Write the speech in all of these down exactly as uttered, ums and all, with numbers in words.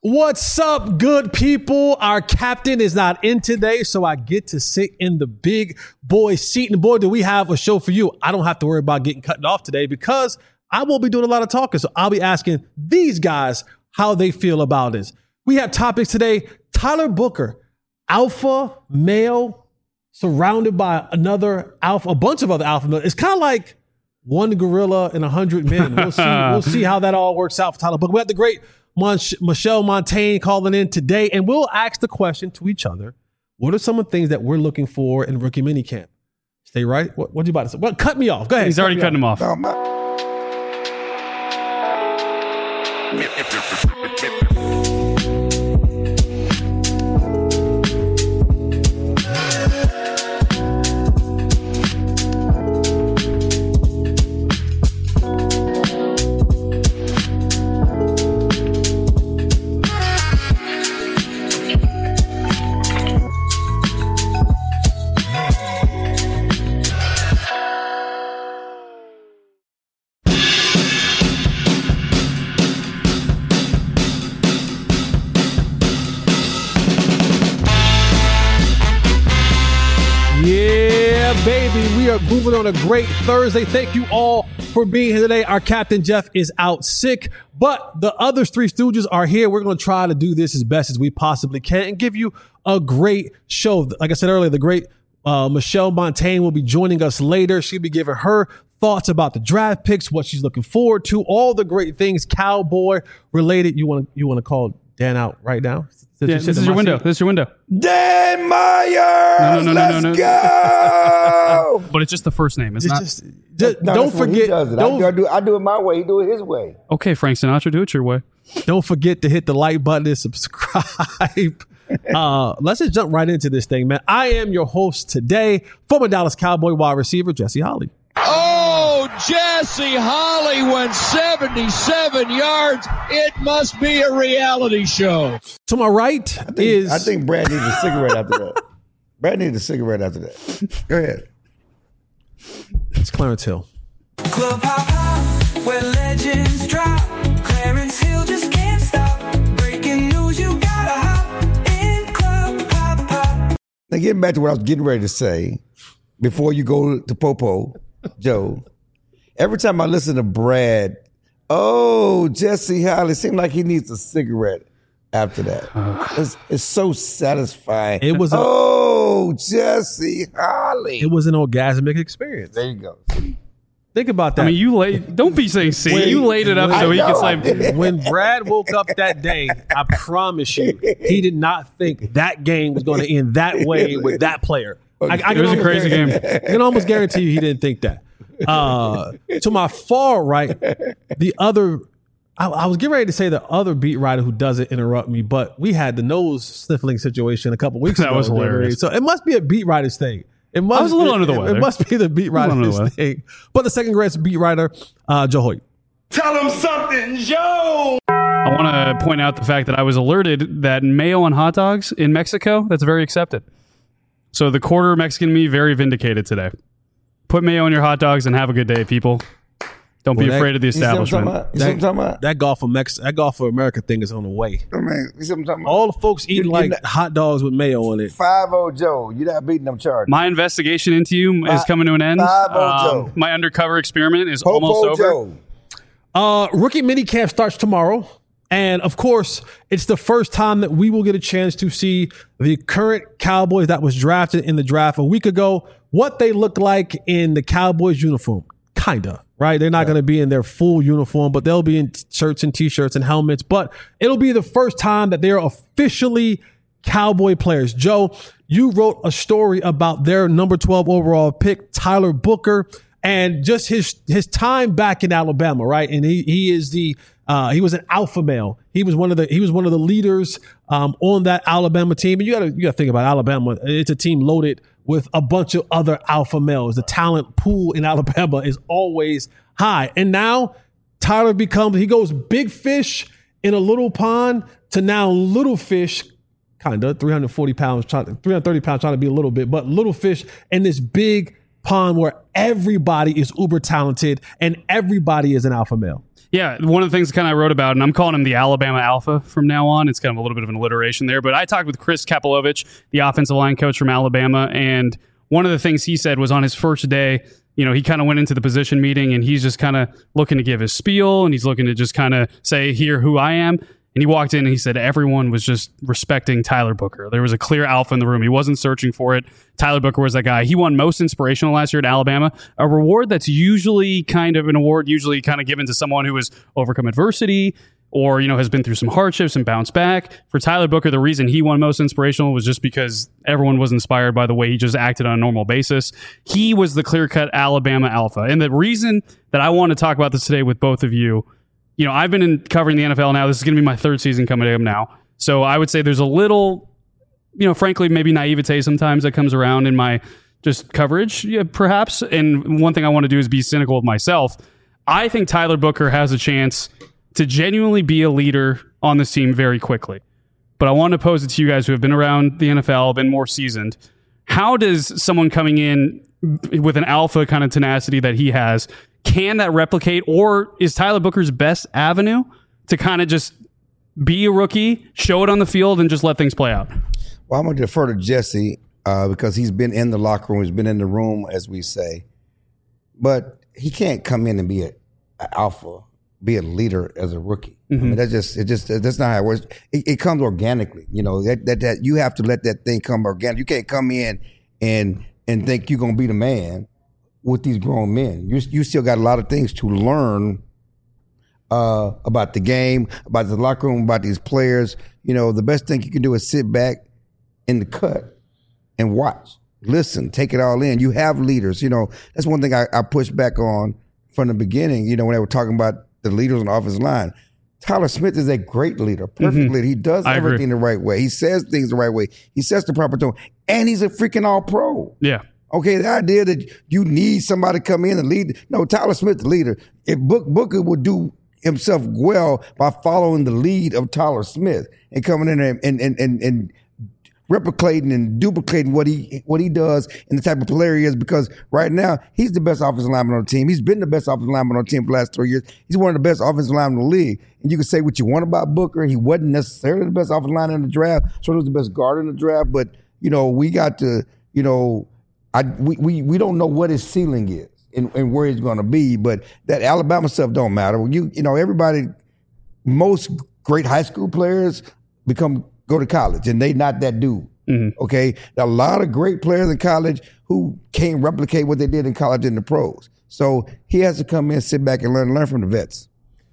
What's up, good people? Our captain is not in today, so I get to sit in the big boy seat. And boy, do we have a show for you. I don't have to worry about getting cut off today because I won't be doing a lot of talking. So I'll be asking these guys how they feel about this. We have topics today. Tyler Booker, alpha male, surrounded by another alpha, a bunch of other alpha males. It's kind of like one gorilla and a hundred men. We'll see. We'll see how that all works out for Tyler Booker. We have the great Mon- Michelle Montaigne calling in today, and we'll ask the question to each other: what are some of the things that we're looking for in rookie minicamp? Stay right. What, what you about to say? Well, cut me off. Go ahead. He's already cutting him off. Oh, my- Baby, we are moving on a great Thursday. Thank you all for being here today. Our captain, Jeff, is out sick, but the other three Stooges are here. We're going to try to do this as best as we possibly can and give you a great show. Like I said earlier, the great uh, Michelle Montaigne will be joining us later. She'll be giving her thoughts about the draft picks, what she's looking forward to, all the great things Cowboy related. You want to you want to call Dan out right now? Yeah, this is your window. This is your window. Dan Myers! No, no, no, Let's no, no, no. go! But it's just the first name. It's Just, not. just, just No, don't that's what he forget. does it. Don't, I, do, I, do, I do it my way. He do it his way. Okay, Frank Sinatra, do it your way. don't forget to hit the like button and subscribe. uh, let's just jump right into this thing, man. I am your host today, former Dallas Cowboy wide receiver Jesse Holley. Oh, Jesse Holley went seventy-seven yards. It must be a reality show. To my right I think, is I think Brad needs a cigarette after that. Brad needs a cigarette after that. Go ahead. it's Clarence Hill. Club hop hop, where legends drop. Clarence Hill just can't stop. Breaking news, you gotta hop in Club hop hop. Now, getting back to what I was getting ready to say, before you go to Popo, Joe, every time I listen to Brad, oh, Jesse Holley, it seems like he needs a cigarette after that. It's, it's so satisfying. It was a- oh, Jesse Holley. It was an orgasmic experience. There you go. Think about that. I mean, you laid. Don't be saying C. Wait, You laid it up wait. so he I could know I say. did. when Brad woke up that day, I promise you, he did not think that game was going to end that way with that player. I, I can It was a almost crazy guarantee- game. I can almost guarantee you he didn't think that. Uh, to my far right, the other, I, I was getting ready to say the other beat writer who doesn't interrupt me, but we had the nose sniffling situation a couple weeks That ago. was hilarious. So it must be a beat writer's thing. It must, I was a little it, under the it- weather. It must be the beat was under the writer's weather. thing. But the second greatest beat writer, uh, Joe Hoyt. Tell him something, Joe! I want to point out the fact that I was alerted that mayo on hot dogs in Mexico, that's very accepted. So the quarter Mexican me, very vindicated today. Put mayo on your hot dogs and have a good day, people. Don't be Well, that- afraid of the You see what I'm talking establishment. about? You see what I'm talking about? That golf for Mex, that golf for America thing is on the way. I mean, you see what I'm talking about? All the folks eating You- like you not- hot dogs with mayo on it. five oh Joe. You're not beating them charges. My investigation into you is Five- coming to an end. five oh Um, Joe. my undercover experiment is Popo almost over. Joe. Uh, rookie minicamp starts tomorrow. And of course, it's the first time that we will get a chance to see the current Cowboys that was drafted in the draft a week ago, what they look like in the Cowboys uniform. Kinda, right? They're not going to be in their full uniform, but they'll be in shirts and t-shirts and helmets. But it'll be the first time that they're officially Cowboy players. Joe, you wrote a story about their number twelve overall pick, Tyler Booker, and just his his time back in Alabama, right? And he he is the uh, he was an alpha male. He was one of the he was one of the leaders um, on that Alabama team. And you gotta you gotta think about Alabama. It's a team loaded with a bunch of other alpha males. The talent pool in Alabama is always high. And now Tyler becomes he goes big fish in a little pond to now little fish. Kind of three hundred forty pounds, trying, three hundred thirty pounds, trying to be a little bit, but little fish in this big pond where everybody is uber talented and everybody is an alpha male. Yeah, one of the things kind of I wrote about, and I'm calling him the Alabama Alpha from now on. It's kind of a little bit of an alliteration there, but I talked with Chris Kapilovich, the offensive line coach from Alabama, and one of the things he said was on his first day, you know, he kind of went into the position meeting and he's just kind of looking to give his spiel and he's looking to just kind of say, here, who I am. And he walked in and he said everyone was just respecting Tyler Booker. There was a clear alpha in the room. He wasn't searching for it. Tyler Booker was that guy. He won most inspirational last year at Alabama, a reward that's usually kind of an award, usually kind of given to someone who has overcome adversity or, you know, has been through some hardships and bounced back. For Tyler Booker, the reason he won most inspirational was just because everyone was inspired by the way he just acted on a normal basis. He was the clear-cut Alabama alpha. And the reason that I want to talk about this today with both of you, you know, I've been in covering the N F L now. This is going to be my third season coming up now. So I would say there's a little, you know, frankly, maybe naivete sometimes that comes around in my just coverage, yeah, perhaps. And one thing I want to do is be cynical with myself. I think Tyler Booker has a chance to genuinely be a leader on this team very quickly. But I want to pose it to you guys who have been around the N F L, been more seasoned. How does someone coming in with an alpha kind of tenacity that he has, can that replicate, or is Tyler Booker's best avenue to kind of just be a rookie, show it on the field, and just let things play out? Well, I'm going to defer to Jesse uh, because he's been in the locker room, he's been in the room, as we say. But he can't come in and be an alpha, be a leader as a rookie. Mm-hmm. I mean, that's just it. Just that's not how it works. It, it comes organically. You know that, that that you have to let that thing come organic. You can't come in and and think you're going to be the man with these grown men. You you still got a lot of things to learn uh, about the game, about the locker room, about these players. You know, the best thing you can do is sit back in the cut and watch, listen, take it all in. You have leaders. You know, that's one thing I, I pushed back on from the beginning. You know, when they were talking about the leaders on the offensive line, Tyler Smith is a great leader, perfect mm-hmm. leader. He does I everything agree. the right way. He says things the right way. He sets the proper tone, and he's a freaking all-pro. Yeah. Okay, the idea that you need somebody to come in and lead. No, Tyler Smith, the leader. If Book, Booker would do himself well by following the lead of Tyler Smith and coming in and and and, and, and replicating and duplicating what he what he does and the type of player he is, because right now he's the best offensive lineman on the team. He's been the best offensive lineman on the team for the last three years. He's one of the best offensive linemen in the league. And you can say what you want about Booker. He wasn't necessarily the best offensive lineman in the draft. So he was the best guard in the draft. But, you know, we got to, you know, I we we, we don't know what his ceiling is and, and where he's going to be. But that Alabama stuff don't matter. You you know, everybody, most great high school players become go to college, and they not that dude. Mm-hmm. Okay, a lot of great players in college who can't replicate what they did in college in the pros. So he has to come in, sit back, and learn learn from the vets.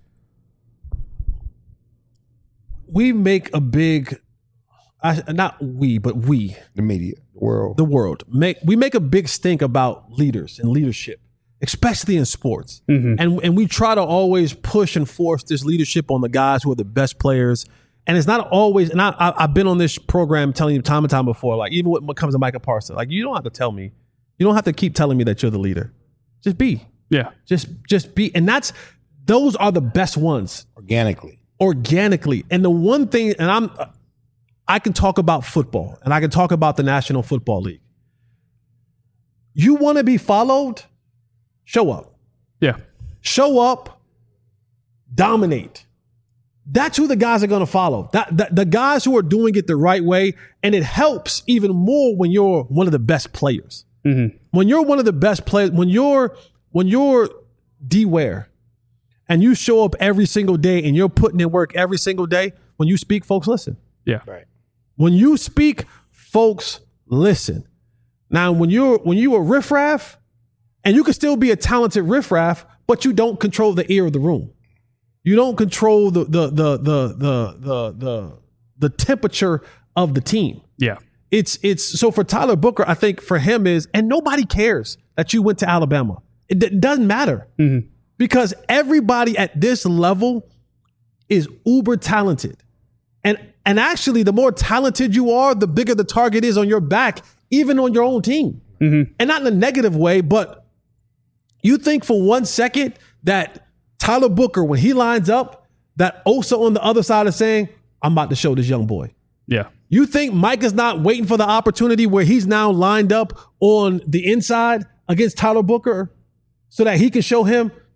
We make a big, I, not we, but we, the media, the world, the world make we make a big stink about leaders and leadership, especially in sports, mm-hmm. and and we try to always push and force this leadership on the guys who are the best players. And it's not always, and I, I, I've been on this program telling you time and time before, like even when it comes to Micah Parsons, like you don't have to tell me, you don't have to keep telling me that you're the leader. Just be. Yeah. Just just be. And that's, those are the best ones. Organically. Organically. And the one thing, and I'm, I can talk about football and I can talk about the National Football League. You want to be followed? Show up. Yeah. Show up, dominate. That's who the guys are going to follow. That, that the guys who are doing it the right way. And it helps even more when you're one of the best players. Mm-hmm. When you're one of the best players, when you're when you're D-Ware and you show up every single day and you're putting in work every single day, when you speak, folks listen. Yeah. Right. When you speak, folks listen. Now, when you're when you a riffraff, and you can still be a talented riffraff, but you don't control the ear of the room. You don't control the the the the the the the, the temperature of the team. Yeah. It's it's so for Tyler Booker, I think for him is, and nobody cares that you went to Alabama. It, d- doesn't matter mm-hmm. because everybody at this level is uber talented. And and actually, the more talented you are, the bigger the target is on your back, even on your own team. Mm-hmm. And not in a negative way, but you think for one second that Tyler Booker, when he lines up, that Osa on the other side is saying, I'm about to show this young boy. Yeah. You think Mike is not waiting for the opportunity where he's now lined up on the inside against Tyler Booker so that he can show him,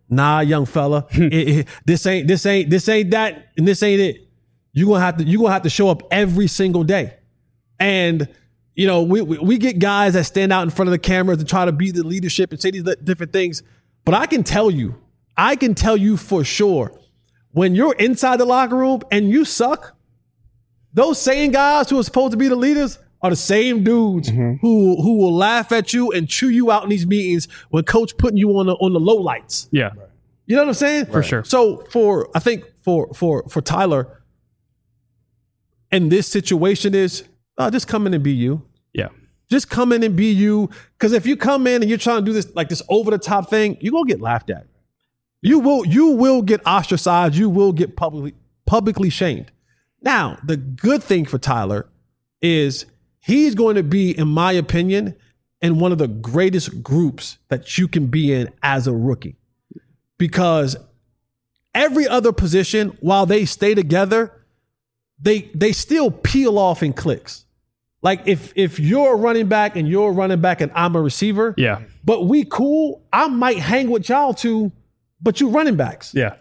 Nah, young fella, it, it, this ain't this ain't this ain't that, and this ain't it. You gonna have to you gonna have to show up every single day, and you know we, we we get guys that stand out in front of the cameras and try to be the leadership and say these different things. But I can tell you, I can tell you for sure, when you're inside the locker room and you suck, those same guys who are supposed to be the leaders are the same dudes mm-hmm. who who will laugh at you and chew you out in these meetings when coach putting you on the on the low lights. Yeah. You know what I'm saying? For sure. So for I think for for for Tyler, in this situation is uh, just come in and be you. Yeah. Just come in and be you. Because if you come in and you're trying to do this like this over the top thing, you're gonna get laughed at. You will you will get ostracized. You will get publicly publicly shamed. Now, the good thing for Tyler is he's going to be, in my opinion, in one of the greatest groups that you can be in as a rookie. Because every other position, while they stay together, they they still peel off in clicks. Like if if you're a running back and you're a running back and I'm a receiver, yeah. but we cool, I might hang with y'all too, but you running backs. Yeah.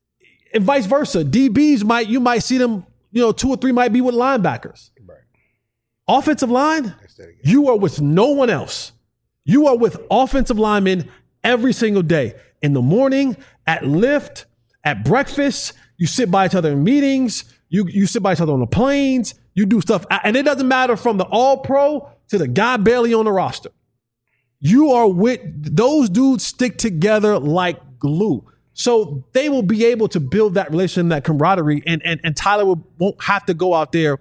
And vice versa. D Bs might, you might see them, you know, two or three might be with linebackers. Right. Offensive line, you are with no one else. You are with offensive linemen every single day. In the morning, at lift, at breakfast, you sit by each other in meetings, you, you sit by each other on the planes, you do stuff. And it doesn't matter from the all-pro to the guy barely on the roster. You are with, those dudes stick together like glue. So they will be able to build that relation, that camaraderie, and and, and Tyler will, won't have to go out there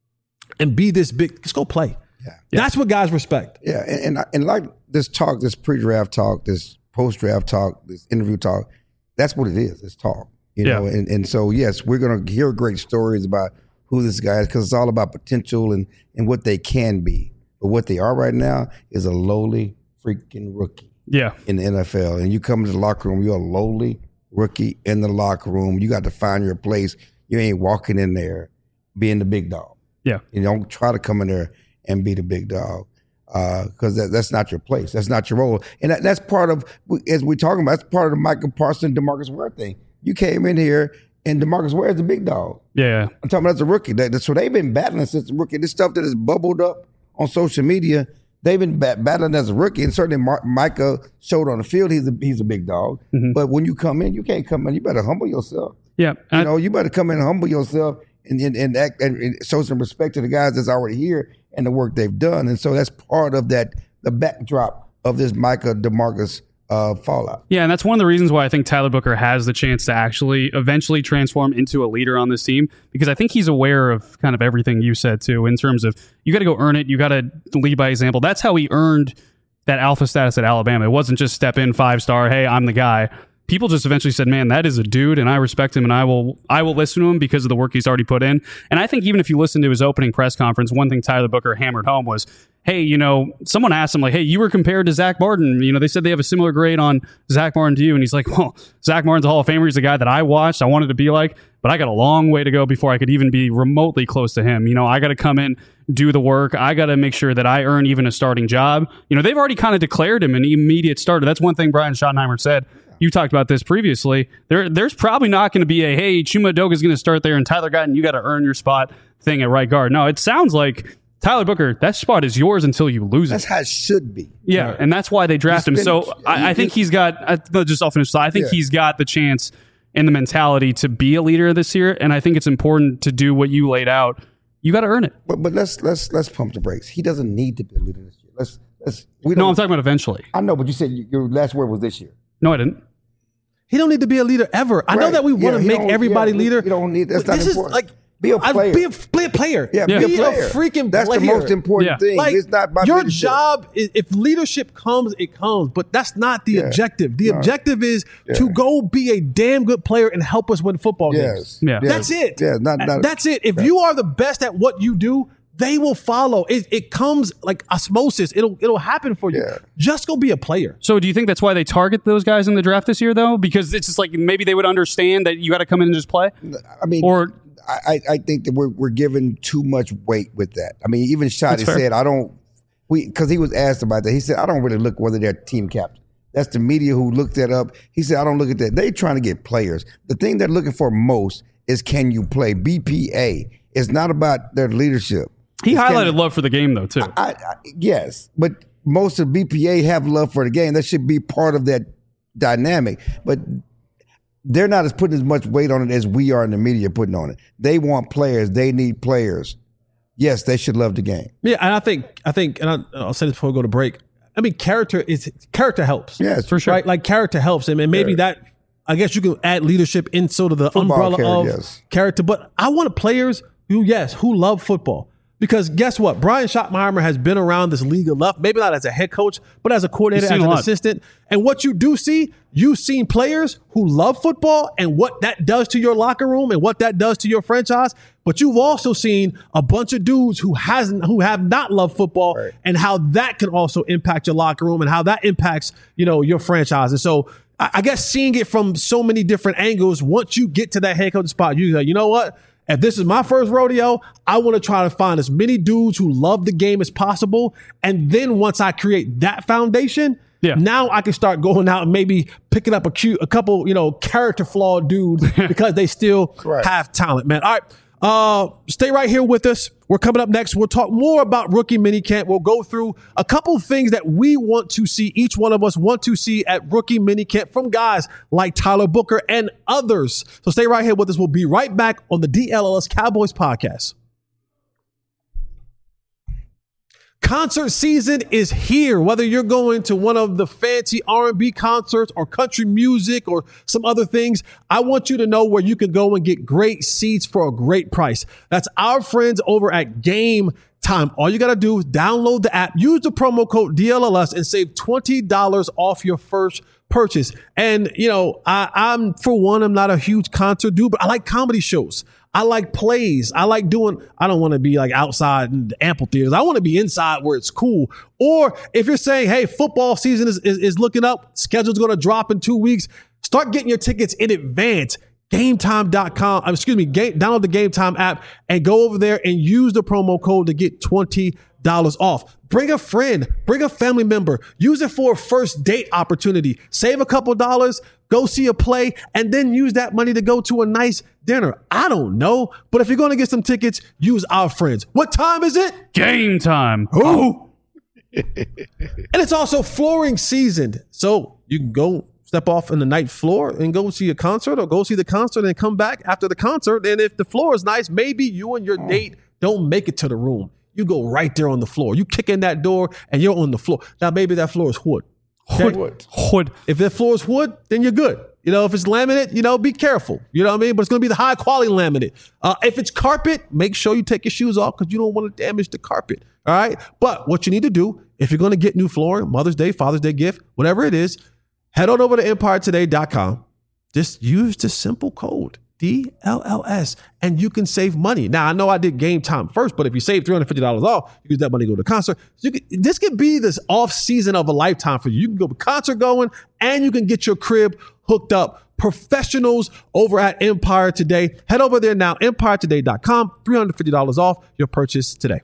and be this big. Just go play. Yeah. That's what guys respect. Yeah, and, and and like this talk, this pre-draft talk, this post-draft talk, this interview talk, that's what it is. It's talk. You know, yeah. and, and so yes, we're gonna hear great stories about who this guy is because it's all about potential and, and what they can be. But what they are right now is a lowly freaking rookie. Yeah. In the N F L. And you come into the locker room, you're a lowly rookie in the locker room. You got to find your place. You ain't walking in there being the big dog. Yeah. You don't try to come in there and be the big dog because uh, that, that's not your place. That's not your role. And that, that's part of, as we're talking about, that's part of the Michael Parsons, DeMarcus Ware thing. You came in here and DeMarcus Ware is the big dog. Yeah. I'm talking about as a rookie. That, so they've been battling since the rookie. This stuff that has bubbled up on social media, they've been bat- battling as a rookie, and certainly Mar- Micah showed on the field he's a he's a big dog. Mm-hmm. But when you come in, you can't come in. You better humble yourself. Yeah, you I, know, you better come in and humble yourself and and, and act and, and show some respect to the guys that's already here and the work they've done. And so that's part of that the backdrop of this Micah DeMarcus uh, fallout. Yeah, and that's one of the reasons why I think Tyler Booker has the chance to actually eventually transform into a leader on this team, because I think he's aware of kind of everything you said too, in terms of you got to go earn it, you got to lead by example. That's how he earned that alpha status at Alabama. It wasn't just step in five star, hey, I'm the guy. People just eventually said, man, that is a dude, and I respect him, and I will I will listen to him because of the work he's already put in. And I think even if you listen to his opening press conference, one thing Tyler Booker hammered home was, hey, you know, someone asked him, like, hey, you were compared to Zach Martin. You know, they said they have a similar grade on Zach Martin to you. And he's like, well, Zach Martin's a Hall of Famer. He's the guy that I watched, I wanted to be like, but I got a long way to go before I could even be remotely close to him. You know, I got to come in, do the work. I got to make sure that I earn even a starting job. You know, they've already kind of declared him an immediate starter. That's one thing Brian Schottenheimer said. You talked about this previously. There, There's probably not going to be a, hey, Chuma Edoga is going to start there and Tyler Guyton, you got to earn your spot thing at right guard. No, it sounds like Tyler Booker, that spot is yours until you lose it. That's how it should be. Yeah, right. And that's why they draft him. So I, I think he's got, I, just I'll finish. So I think yeah. he's got the chance and the mentality to be a leader this year, and I think it's important to do what you laid out. You got to earn it. But but let's let's let's pump the brakes. He doesn't need to be a leader this year. Let's let's. We don't, no, I'm talking about eventually. I know, but you said your last word was this year. No, I didn't. He don't need to be a leader ever. I right. know that we want to yeah, make everybody yeah, leader. You don't need. That's not this important. Is like. Be a player. Be a, be a player. Yeah, be, be a player. a freaking That's player. the most important yeah. thing. Like, it's not about your leadership. job is, if leadership comes, it comes. But that's not the yeah. objective. The no. objective is yeah. to go be a damn good player and help us win football yes. games. Yeah. Yes. That's it. Yeah, not, not, that's it. If right. you are the best at what you do, they will follow. It, it comes like osmosis. It'll it'll happen for you. Yeah. Just go be a player. So do you think that's why they target those guys in the draft this year, though? Because it's just like maybe they would understand that you got to come in and just play? I mean, or I, I think that we're we're giving too much weight with that. I mean, even Shotty said, I don't, we because he was asked about that. He said, I don't really look whether they're team captain. That's the media who looked that up. He said, I don't look at that. They trying to get players. The thing they're looking for most is can you play? B P A. It's not about their leadership. He It's highlighted can- love for the game, though, too. I, I, yes, but most of B P A have love for the game. That should be part of that dynamic. But they're not as putting as much weight on it as we are in the media putting on it. They want players. They need players. Yes, they should love the game. Yeah, and I think I think, and I, I'll say this before we go to break. I mean, character is character helps. Yes, For sure. Right, like character helps, and maybe Yeah. that. I guess you can add leadership in sort of the Football umbrella character, of yes. character. But I want players who, yes, who love football. Because guess what? Brian Schottenheimer has been around this league enough, maybe not as a head coach, but as a coordinator, He's seen as a an lot. assistant. And what you do see, you've seen players who love football and what that does to your locker room and what that does to your franchise. But you've also seen a bunch of dudes who hasn't, who have not loved football, Right. and how that can also impact your locker room and how that impacts, you know, your franchise. And so I I guess seeing it from so many different angles, once you get to that head coach spot, you go, you know what? If this is my first rodeo, I want to try to find as many dudes who love the game as possible. And then once I create that foundation, Yeah. now I can start going out and maybe picking up a cute, a couple, you know, character flawed dudes because they still Right. have talent, man. All right. Uh, stay right here with us. We're coming up next. We'll talk more about rookie minicamp. We'll go through a couple things that we want to see, each one of us want to see at rookie minicamp from guys like Tyler Booker and others. So stay right here with us. We'll be right back on the D L L S Cowboys podcast. Concert season is here. Whether you're going to one of the fancy R and B concerts or country music or some other things, I want you to know where you can go and get great seats for a great price. That's our friends over at Game Time. All you got to do is download the app, use the promo code D L L S, and save twenty dollars off your first purchase. And, you know, I, I'm, for one, I'm not a huge concert dude, but I like comedy shows. I like plays. I like doing, I don't want to be like outside in the amphitheaters. I want to be inside where it's cool. Or if you're saying, hey, football season is, is, is looking up, schedule's going to drop in two weeks, start getting your tickets in advance. Game time dot com, excuse me, game, download the Game Time app and go over there and use the promo code to get twenty dollars off. Bring a friend, bring a family member, use it for a first date opportunity. Save a couple dollars, go see a play, and then use that money to go to a nice dinner. I don't know, but if you're going to get some tickets, use our friends. What time is it? Game time. Ooh. And it's also flooring season. So you can go step off in the night floor and go see a concert, or go see the concert and come back after the concert. And if the floor is nice, maybe you and your date don't make it to the room. You go right there on the floor. You kick in that door and you're on the floor. Now, maybe that floor is wood. Okay? Hood. Hood. If that floor is wood, then you're good. You know, if it's laminate, you know, be careful. You know what I mean? But it's going to be the high quality laminate. Uh, if it's carpet, make sure you take your shoes off because you don't want to damage the carpet. All right. But what you need to do, if you're going to get new flooring, Mother's Day, Father's Day gift, whatever it is, head on over to empire today dot com. Just use the simple code D L L S and you can save money. Now, I know I did Game Time first, but if you save three hundred fifty dollars off, you use that money to go to a concert. So you can, this could be this off season of a lifetime for you. You can go to concert going and you can get your crib hooked up. Professionals over at Empire Today. Head over there now, empire today dot com. three hundred fifty dollars off your purchase today.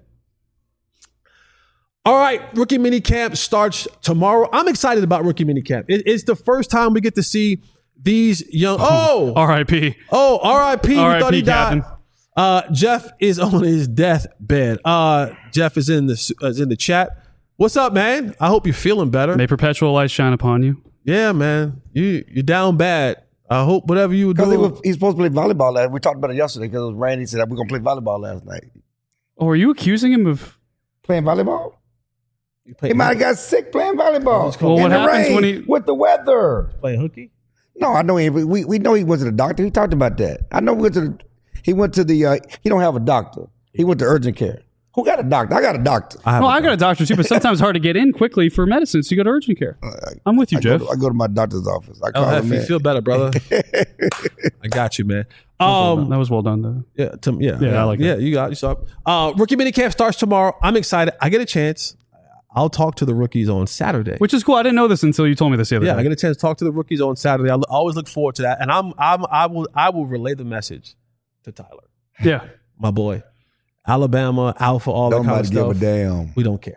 All right, Rookie Minicamp starts tomorrow. I'm excited about Rookie Minicamp. It, it's the first time we get to see these young. Oh, R I P. oh, R I P. We R I P, thought he died. Captain. Uh, Jeff is on his deathbed. Uh, Jeff is in the uh, is in the chat. What's up, man? I hope you're feeling better. May perpetual light shine upon you. Yeah, man. You you're down bad. I hope whatever you were Because he doing. was, he's supposed to play volleyball last. We talked about it yesterday because it was raining. He said we're gonna play volleyball last night. Oh, are you accusing him of? Playing volleyball? You play- He might have got sick playing volleyball. Well, in what the happens rain, when he- with the weather? playing hooky. No, I know he. We we know he went to the doctor. He talked about that. I know we went to the. He went to the. Uh, he don't have a doctor. He went to urgent care. Who got a doctor? I got a doctor. I have Well, a I got a doctor too, but sometimes it's hard to get in quickly for medicine, so you go to urgent care. I'm with you, I go, Jeff. to, I go to my doctor's office. I Oh, call him Heffy, in. feel better, brother. I got you, man. Well done. Um, that was well done, though. yeah, to, yeah, Yeah, I like yeah. that. You got you saw. it. Uh, rookie minicamp starts tomorrow. I'm excited. I get a chance. I'll talk to the rookies on Saturday. Which is cool. I didn't know this until you told me this the other yeah, day. I get a chance to talk to the rookies on Saturday. I always look forward to that, and I'm, I'm, I will, I will relay the message to Tyler, yeah. my boy, Alabama, Alpha, all that kind Nobody of give stuff. a damn. We don't care.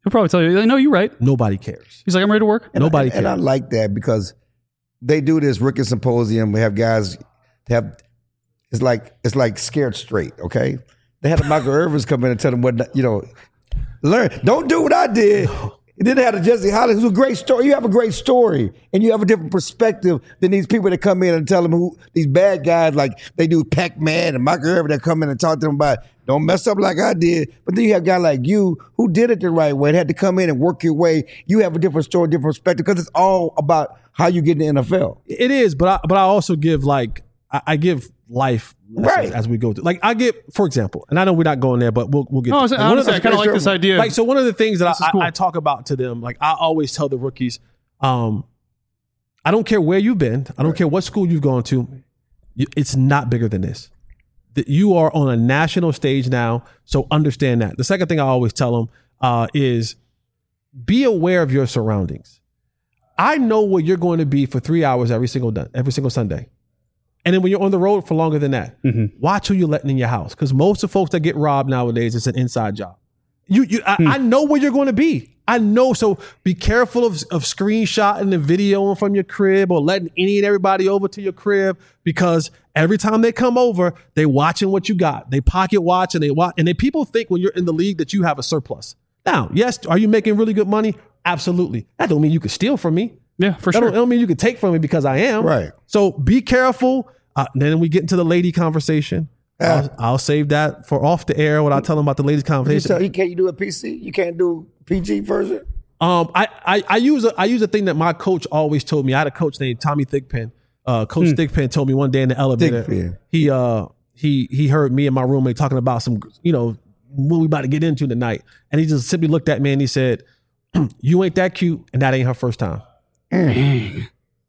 He'll probably tell you, no, you're right. Nobody cares. He's like, I'm ready to work. And Nobody I, and I cares. like that because they do this rookie symposium. We have guys have it's like it's like scared straight. Okay, they had the Michael Irvins come in and tell them what you know. Learn. Don't do what I did. And then they had a Jesse Hollis, who's a great story. You have a great story, and you have a different perspective than these people that come in and tell them who these bad guys like they do Pac-Man and Michael Irvin that come in and talk to them about don't mess up like I did. But then you have a guy like you who did it the right way, and had to come in and work your way. You have a different story, different perspective, because it's all about how you get in the N F L. It is, but I, but I also give like I, I give life lessons Right. as we go through. Like I get, for example, and I know we're not going there, but we'll we'll get. No, I was- to- one of honestly, the- I kind of like this idea. Like so, one of the things that This is I, cool. I, I talk about to them, like I always tell the rookies, um, I don't care where you've been, I don't care what school you've gone to, you, it's not bigger than this. That you are on a national stage now, so understand that. The second thing I always tell them uh, is be aware of your surroundings. I know where you're going to be for three hours every single day, every single Sunday. And then when you're on the road for longer than that, Mm-hmm. watch who you're letting in your house. Because most of the folks that get robbed nowadays, it's an inside job. You, you, I, I know where you're going to be. I know. So be careful of, of screenshotting and videoing from your crib or letting any and everybody over to your crib, because every time they come over, they watching what you got. They pocket watch and they watch. And then people think when you're in the league that you have a surplus. Now, yes, are you making really good money? Absolutely. That don't mean you could steal from me. Yeah, for That sure. don't, don't mean you can take from me because I am. Right. So be careful. Uh, then we get into the lady conversation. Yeah. I'll, I'll save that for off the air when I tell them about the ladies You tell conversation. you can't you do a P C? You can't do P G version? Um, I, I I use a I use a thing that my coach always told me. I had a coach named Tommy Thigpen. Uh, coach Thigpen told me one day in the elevator. Thigpen. He uh he he heard me and my roommate talking about some you know what we about to get into tonight, and he just simply looked at me and he said, "You ain't that cute, and that ain't her first time." Dang.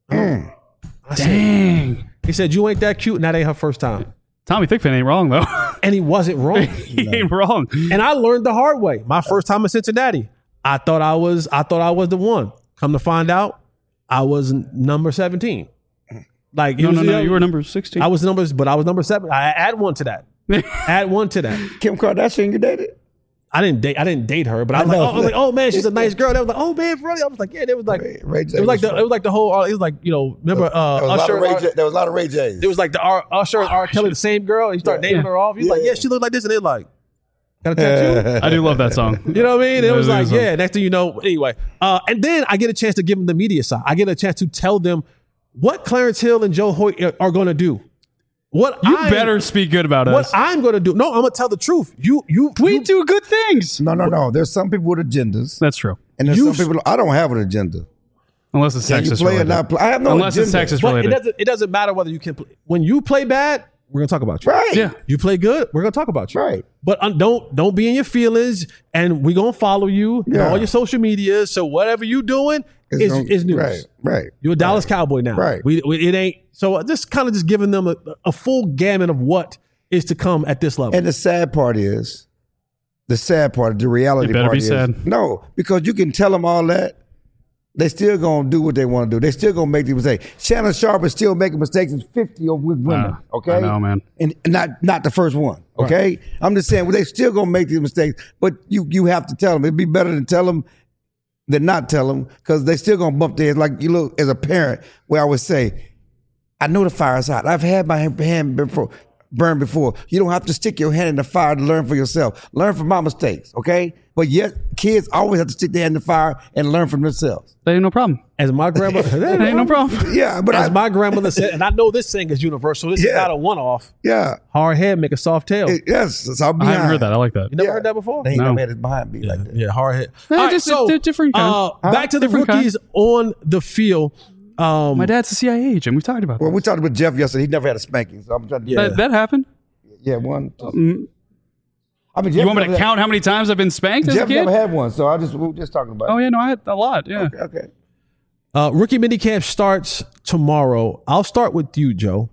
I said, Dang. he said, "You ain't that cute, and that ain't her first time." Tommy Thigpen ain't wrong, though. And he wasn't wrong. He ain't wrong. And I learned the hard way. My first time in Cincinnati, I thought I was I thought I was the one. Come to find out, I was n- number seventeen. Like it No, was, no, no. You were number sixteen. I was numbers, but I was number seven. I add one to that. add one to that. Kim Kardashian, you dated? I didn't date. I didn't date her, but I was I like, know. oh, I was like, oh man, she's a nice girl. They was like, oh man, really? I was like, yeah. It was like, Ray- Ray J it was like was the, it was like the whole. It was like you know, remember uh, There was, a lot Usher? of Ray and J, R- there was a lot of Ray J's. it was like the R, Usher and R. Kelly, the same girl. And you start naming Yeah. her off. He's like, Yeah. yeah, she looked like this, and they're like, got a tattoo. I do love that song. You know what I mean? And it That was is a like, good song. yeah, next thing you know, anyway. Uh, and then I get a chance to give them the media side. I get a chance to tell them what Clarence Hill and Joe Hoyt are going to do. What You I'm, better speak good about what us. I'm going to do. No, I'm going to tell the truth. You, you, we you, do good things. no, no, no. There's some people with agendas, That's true. and there's You- some people. I don't have an agenda. Unless it's Can you sexist play or related. not play? I have no Unless agenda. it's sexist but it related. doesn't, it doesn't matter whether you can play. When you play bad, we're going to talk about you. Right. Yeah. You play good, we're going to talk about you. Right. But uh, don't don't be in your feelings, and we're going to follow you on Yeah. all your social media. So whatever you doing It's is, gonna- is news. Right. Right. You're a Dallas Cowboy now. Right. We, we, it ain't. So just kind of just giving them a, a full gamut of what is to come at this level. And the sad part is, the sad part, the reality It better part be is, sad. no, because you can tell them all that, they still gonna do what they want to do. They still gonna make the mistake. Shannon Sharp is still making mistakes in fifty of with women. Ah, okay, I know, man. and not not the first one. Okay, I'm just saying, well, they still gonna make these mistakes, but you you have to tell them. It'd be better to tell them than not tell them, because they still gonna bump their heads. Like you look as a parent, where I would say, I know the fire's hot. I've had my hand before. Burned before. You don't have to stick your hand in the fire to learn for yourself. Learn from my mistakes, okay? But yet, kids always have to stick their hand in the fire and learn from themselves. That ain't no problem. As my grandmother, That ain't no problem. Yeah, but as I, my grandmother said, and I know this thing is universal. This is Yeah. not a one-off. yeah, Hard head make a soft tail. it- yes, it's all I behind. haven't heard that. I like that. you never Yeah. heard that before? They ain't No. never had it behind me like that. Yeah, hard head. Eh, All right, just a- so di- different kind. uh, back to the Different kind. rookies on the field. Um, My dad's a C I A agent. We've talked about Well, that. we talked about Jeff yesterday. He never had a spanking, so I'm trying to. Yeah. That, that happened. yeah, one. two. Mm, I mean, Jeff you want me never to had- count how many times I've been spanked as a Jeff kid? never had one, so I just we were just talking about. Oh it. yeah, no, I had a lot. Yeah. Okay, okay. Uh, rookie minicamp starts tomorrow. I'll start with you, Joe.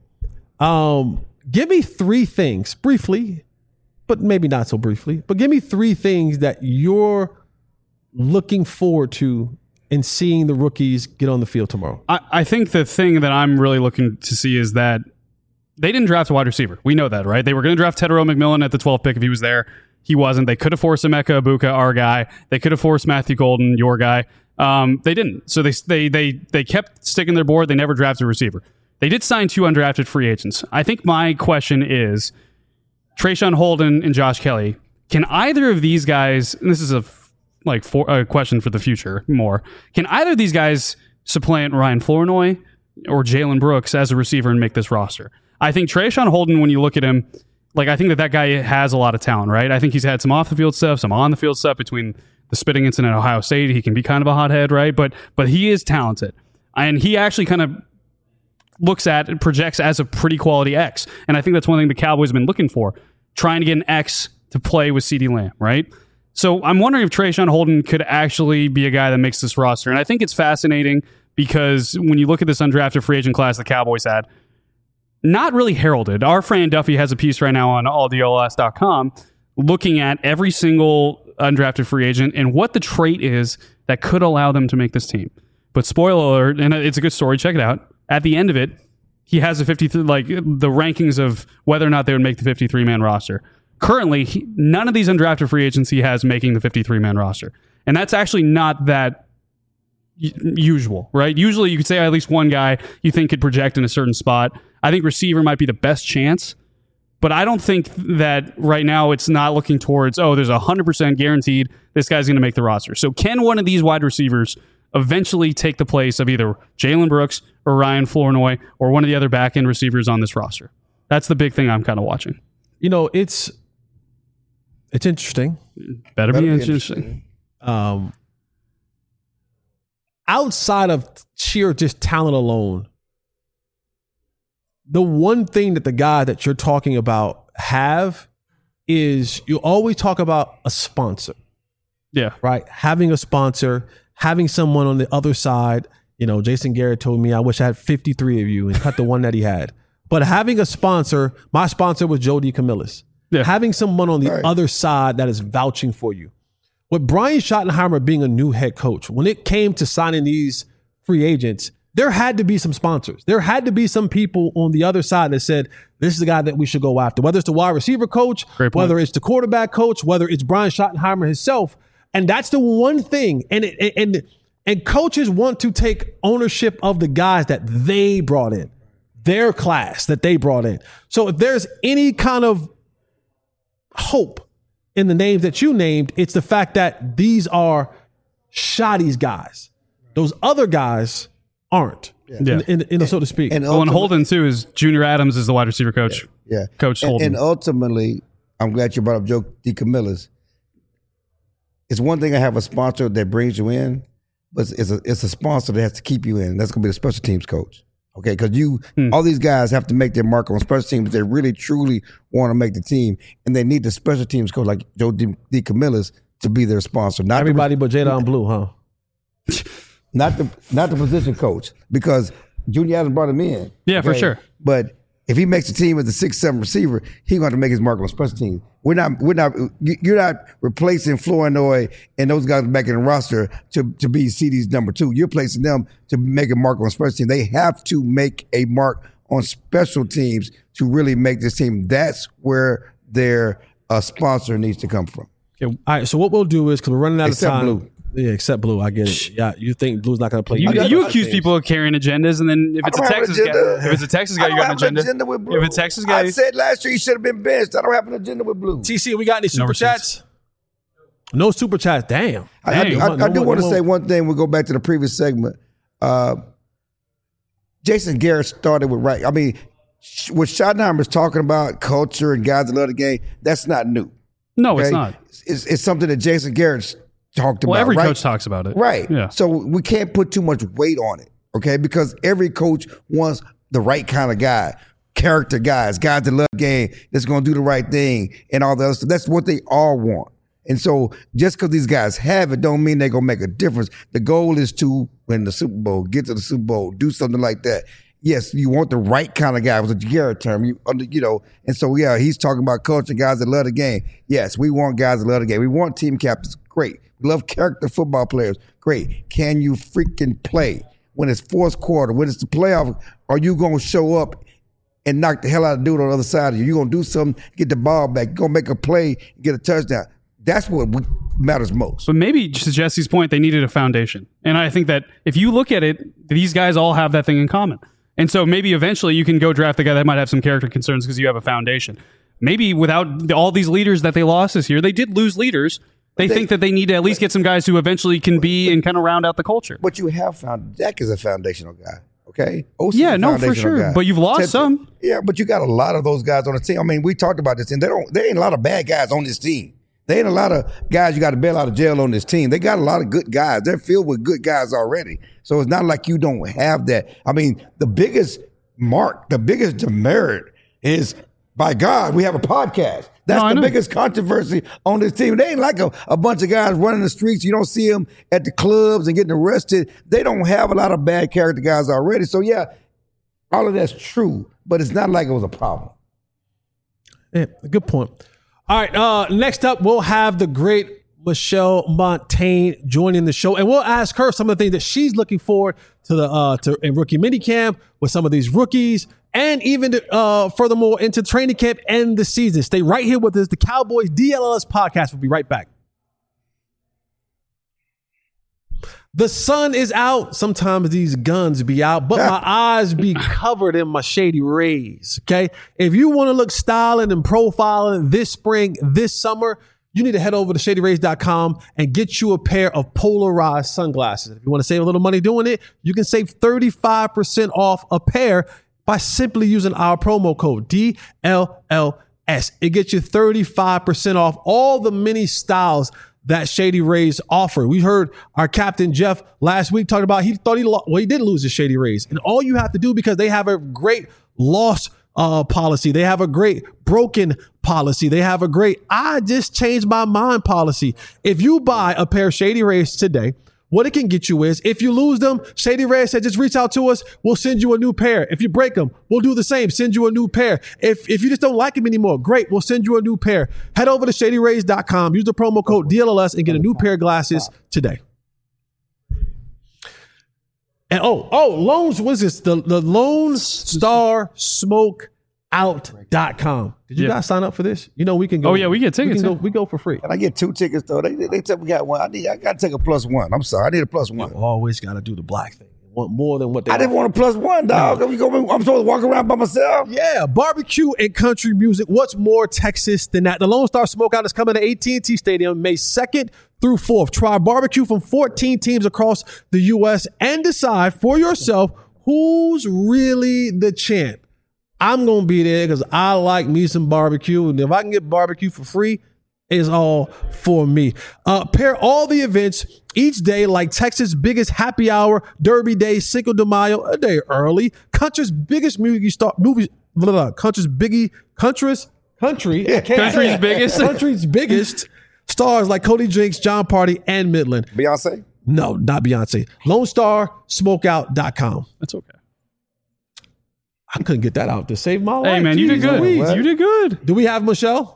Um, give me three things briefly, but maybe not so briefly, but give me three things that you're looking forward to in seeing the rookies get on the field tomorrow. I, I think the thing that I'm really looking to see is that they didn't draft a wide receiver. We know that, right? They were going to draft Tedero McMillan at the twelfth pick if he was there. He wasn't. They could have forced Emeka Ibuka, our guy. They could have forced Matthew Golden, your guy. Um, they didn't. So they they they they kept sticking their board. They never drafted a receiver. They did sign two undrafted free agents. I think my question is, Trayshawn Holden and Josh Kelly, can either of these guys, and this is a like for, a question for the future more, can either of these guys supplant Ryan Flournoy or Jalen Brooks as a receiver and make this roster? I think Trayshawn Holden, when you look at him, like I think that that guy has a lot of talent, right? I think he's had some off the field stuff, some on the field stuff between the spitting incident at Ohio State. He can be kind of a hothead, right? But but he is talented, and he actually kind of looks at and projects as a pretty quality X. And I think that's one thing the Cowboys have been looking for, trying to get an X to play with CeeDee Lamb, right? So I'm wondering if Trayshawn Holden could actually be a guy that makes this roster. And I think it's fascinating because when you look at this undrafted free agent class the Cowboys had, not really heralded. Our friend Duffy has a piece right now on all D L S dot com looking at every single undrafted free agent and what the trait is that could allow them to make this team. But spoiler alert, and it's a good story, check it out. At the end of it, he has a fifty-three, like the rankings of whether or not they would make the fifty-three man roster. Currently, he, none of these undrafted free agents he has making the fifty-three man roster. And that's actually not that y- usual, right? Usually you could say at least one guy you think could project in a certain spot. I think receiver might be the best chance, but I don't think that right now it's not looking towards, oh, there's a one hundred percent guaranteed this guy's going to make the roster. So can one of these wide receivers eventually take the place of either Jalen Brooks or Ryan Flournoy or one of the other back-end receivers on this roster? That's the big thing I'm kind of watching. You know, it's it's interesting. Better, Better be be interesting. interesting. Um, outside of sheer just talent alone, the one thing that the guy that you're talking about have is you always talk about a sponsor, Yeah. right? Having a sponsor, having someone on the other side. You know, Jason Garrett told me, I wish I had fifty-three of you and cut the one that he had. But having a sponsor, my sponsor was Joe DeCamillis. Yeah. Having someone on the Right. other side that is vouching for you. With Brian Schottenheimer being a new head coach, when it came to signing these free agents, there had to be some sponsors. There had to be some people on the other side that said, this is the guy that we should go after. Whether it's the wide receiver coach, Great point. whether it's the quarterback coach, whether it's Brian Schottenheimer himself. And that's the one thing. And it, and and coaches want to take ownership of the guys that they brought in, their class that they brought in. So if there's any kind of hope in the names that you named, it's the fact that these are Shoddy's guys. Those other guys aren't, Yeah. in, in, in, so to speak. And Oh, and ultimate- Holden, too, is Junior Adams is the wide receiver coach. Yeah. Coach And, Holden. and ultimately, I'm glad you brought up Joe DeCamillis. It's one thing to have a sponsor that brings you in, but it's a, it's a sponsor that has to keep you in. That's going to be the special teams coach. Okay, because you, Hmm. all these guys have to make their mark on special teams. They really, truly want to make the team, and they need the special teams coach like Joe De- DeCamillis to be their sponsor. Not the- Everybody but Jadon Blue, huh? not the not the position coach, because Junior Adams brought him in. Yeah, for sure. But if he makes the team as a six seven receiver, he's going to make his mark on special teams. We're not we're not you- you're not replacing Flournoy and those guys back in the roster to to be C D's number two. You're placing them to make a mark on special teams. They have to make a mark on special teams to really make this team. That's where their uh, sponsor needs to come from. All right, so what we'll do is, because we're running out Except of time. Blue. Yeah, except Blue. I get it. Yeah, you think Blue's not going to play? You, I got- you I accuse think- people of carrying agendas, and then if I it's a don't have an Texas guy, agenda. if it's a Texas guy, I you don't got an have agenda. agenda with Blue. If it's a Texas guy, I said last year he should have been benched. I don't have an agenda with Blue. T C, we got any super receipts. chats? No super chats. Damn. I, I, Dang. I, I No do more- want to no say more. one thing. We'll go back to the previous segment. Uh, Jason Garrett started with right. I mean, sh- what Schottenheimer's talking about, culture and guys that love the game, that's not new. no, it's okay? not. It's, it's something that Jason Garrett's talked Well, about. every right? coach talks about it. Right. Yeah. So we can't put too much weight on it, okay? Because every coach wants the right kind of guy, character guys, guys that love the game, that's going to do the right thing and all the other stuff. That's what they all want. And so just because these guys have it don't mean they're going to make a difference. The goal is to win the Super Bowl, get to the Super Bowl, do something like that. Yes, you want the right kind of guy. It was a Garrett term, you, under- you know. And so, yeah, he's talking about culture, guys that love the game. Yes, we want guys that love the game. We want team captains. Great. We love character football players. Great. Can you freaking play? When it's fourth quarter, when it's the playoff, are you going to show up and knock the hell out of the dude on the other side of you. You're going to do something, get the ball back. You're going to make a play, get a touchdown. That's what matters most. But maybe, to Jesse's point, they needed a foundation. And I think that if you look at it, these guys all have that thing in common. And so maybe eventually you can go draft the guy that might have some character concerns because you have a foundation. Maybe without the, all these leaders that they lost this year, they did lose leaders. They, they think that they need to at least get some guys who eventually can be and kind of round out the culture. But you have found Dak is a foundational guy. Okay. O C yeah, is a no, for foundational sure. guy. But you've lost Ted- some. Yeah, but you got a lot of those guys on the team. I mean, we talked about this, and they don't. There ain't a lot of bad guys on this team. There ain't a lot of guys you got to bail out of jail on this team. They got a lot of good guys. They're filled with good guys already. So it's not like you don't have that. I mean, the biggest mark, the biggest demerit is, by God, we have a podcast. That's No, the know. biggest controversy on this team. They ain't like a, a bunch of guys running the streets. You don't see them at the clubs and getting arrested. They don't have a lot of bad character guys already. So, yeah, all of that's true, but it's not like it was a problem. Yeah, good point. All right, uh, next up, we'll have the great Michelle Montaigne joining the show, and we'll ask her some of the things that she's looking forward to the uh, to in rookie minicamp with some of these rookies, and even uh, furthermore into training camp and the season. Stay right here with us. The Cowboys D L L S podcast. We'll be right back. The sun is out. Sometimes these guns be out, but my eyes be covered in my shady rays. Okay. If you want to look styling and profiling this spring, this summer, you need to head over to shady rays dot com and get you a pair of polarized sunglasses. If you want to save a little money doing it, you can save thirty-five percent off a pair by simply using our promo code D L L S. It gets you thirty-five percent off all the many styles that Shady Rays offer. We heard our captain Jeff last week talking about he thought he lo- well he did lose his Shady Rays, and all you have to do, because they have a great loss uh, policy, they have a great broken policy, they have a great I just changed my mind policy. If you buy a pair of Shady Rays today, what it can get you is, if you lose them, Shady Rays said, just reach out to us. We'll send you a new pair. If you break them, we'll do the same. Send you a new pair. If if you just don't like them anymore, great. We'll send you a new pair. Head over to shady rays dot com. Use the promo code D L L S and get a new pair of glasses today. And oh, oh, loans, what is this? The, the Lone Star Smoke Out dot com. Did you Yeah. guys sign up for this? You know, we can go. Oh, yeah, we get tickets, We, can yeah. go, we go for free. And I get two tickets, though. They, they tell me we got one. I need. I got to take a plus one. I'm sorry. I need a plus one. Always got to do the black thing. Want more than what they I didn't want a plus one, dog. We go, I'm supposed to walk around by myself. Yeah, barbecue and country music. What's more Texas than that? The Lone Star Smokeout is coming to A T and T Stadium May second through fourth. Try barbecue from fourteen teams across the U S and decide for yourself who's really the champ. I'm going to be there because I like me some barbecue. And if I can get barbecue for free, it's all for me. Uh, pair all the events each day like Texas' biggest happy hour, Derby Day, Cinco de Mayo, a day early. Country's biggest movie star, movie, blah, blah, blah, country's biggie, country's, country, I can't Country's say it. biggest. Country's biggest stars like Cody Jinks, John Party, and Midland. Beyonce? No, not Beyonce. Lone Star Smokeout dot com. That's okay. I couldn't get that out to save my life. Hey, man, you did Jeez good. Louise. You did good. Do we have Michelle?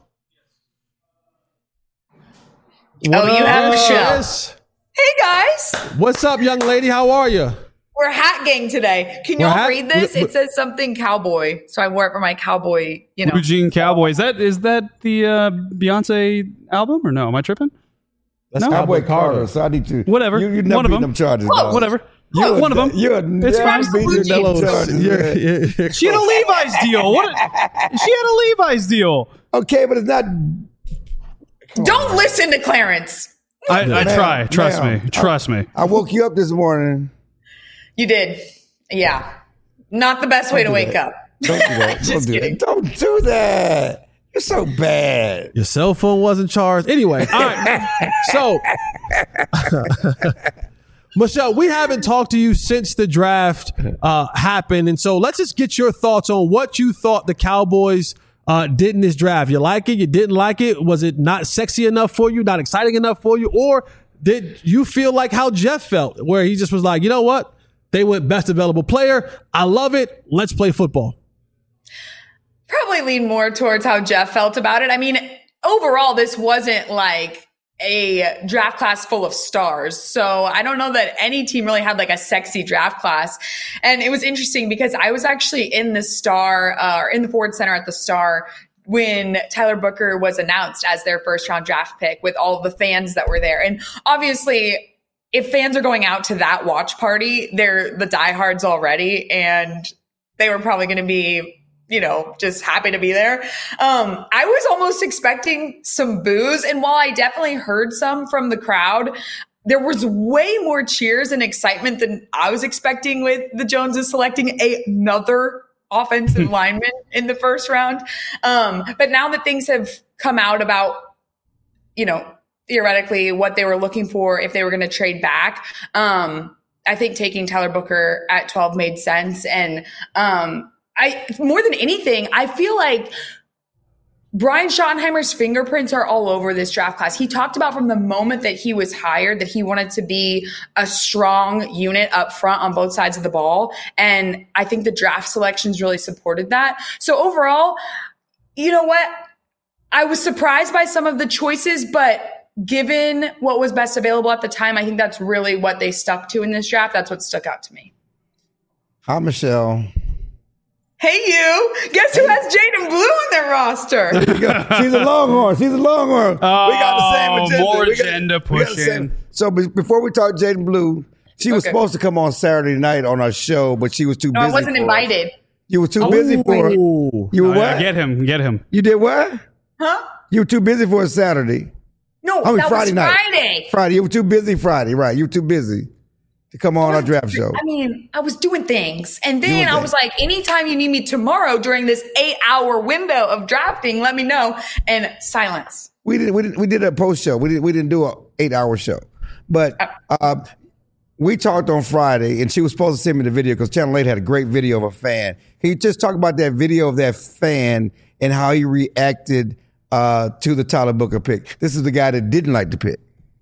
Oh, you have Michelle. Yes. Hey guys, What's up, young lady? How are you? we're hat gang today. Can We're y'all hat- read this? we- we- It says something cowboy, so I wore it for my cowboy. You know, Blue Jean Cowboy. Is that is that the uh, Beyonce album or no? Am I tripping? That's No. Cowboy Carter. So I need to. Whatever. You, you never One of beat them. them charges. Oh, dog. Whatever. You're One of them. You're It's never fine. beat them Absolutely. charges. Yeah, man. yeah, yeah. She had a Levi's deal. What? She had a Levi's deal. Okay, but it's not. don't listen to Clarence. I, I Ma'am, try. Trust ma'am. me. Trust me. I woke you up this morning. You did, yeah. Not the best way to do wake that. up. Don't do that. Don't Just do kidding. that. Don't do that. You're so bad. Your cell phone wasn't charged. Anyway, all right. So, Michelle, we haven't talked to you since the draft uh, happened. And so let's just get your thoughts on what you thought the Cowboys uh, did in this draft. You like it? You didn't like it? Was it not sexy enough for you? Not exciting enough for you? Or did you feel like how Jeff felt, where he just was like, you know what? They went best available player. I love it. Let's play football. Probably lean more towards how Jeff felt about it. I mean, overall, this wasn't like a draft class full of stars. So I don't know that any team really had like a sexy draft class. And it was interesting because I was actually in the Star, uh, or in the Ford Center at the Star when Tyler Booker was announced as their first round draft pick with all of the fans that were there. And obviously, if fans are going out to that watch party, they're the diehards already, and they were probably going to be, you know, just happy to be there. Um, I was almost expecting some boos. And while I definitely heard some from the crowd, there was way more cheers and excitement than I was expecting with the Joneses selecting another offensive lineman in the first round. Um, but now that things have come out about, you know, theoretically what they were looking for if they were going to trade back, um, I think taking Tyler Booker at twelve made sense. And um, I, more than anything, I feel like Brian Schottenheimer's fingerprints are all over this draft class. He talked about from the moment that he was hired that he wanted to be a strong unit up front on both sides of the ball. And I think the draft selections really supported that. So overall, you know what? I was surprised by some of the choices, but given what was best available at the time, I think that's really what they stuck to in this draft. That's what stuck out to me. Hi, Michelle. Hey, you. Guess who has Jaden Blue on their roster? She's a Longhorn. She's a Longhorn. Oh, we got the same agenda. more we got, agenda we got the pushing. same- So be- before we talk Jaden Blue, she was Okay. supposed to come on Saturday night on our show, but she was too No, busy. I wasn't for invited. It. You were too busy for it. Ooh. You were Oh, yeah, what? get him, get him. You did what? Huh? You were too busy for a Saturday. No, I mean, that Friday was night. Friday. Friday. You were too busy Friday, right? You were too busy to come on our draft show. I mean, I was doing things. And then Doing I was things. like, anytime you need me tomorrow during this eight hour window of drafting, let me know. And silence. We did. We did. We did a post show. We did. We didn't do a eight hour show, but uh, we talked on Friday, and she was supposed to send me the video because Channel eight had a great video of a fan. Can you just talk about that video of that fan and how he reacted uh, to the Tyler Booker pick? This is the guy that didn't like the pick.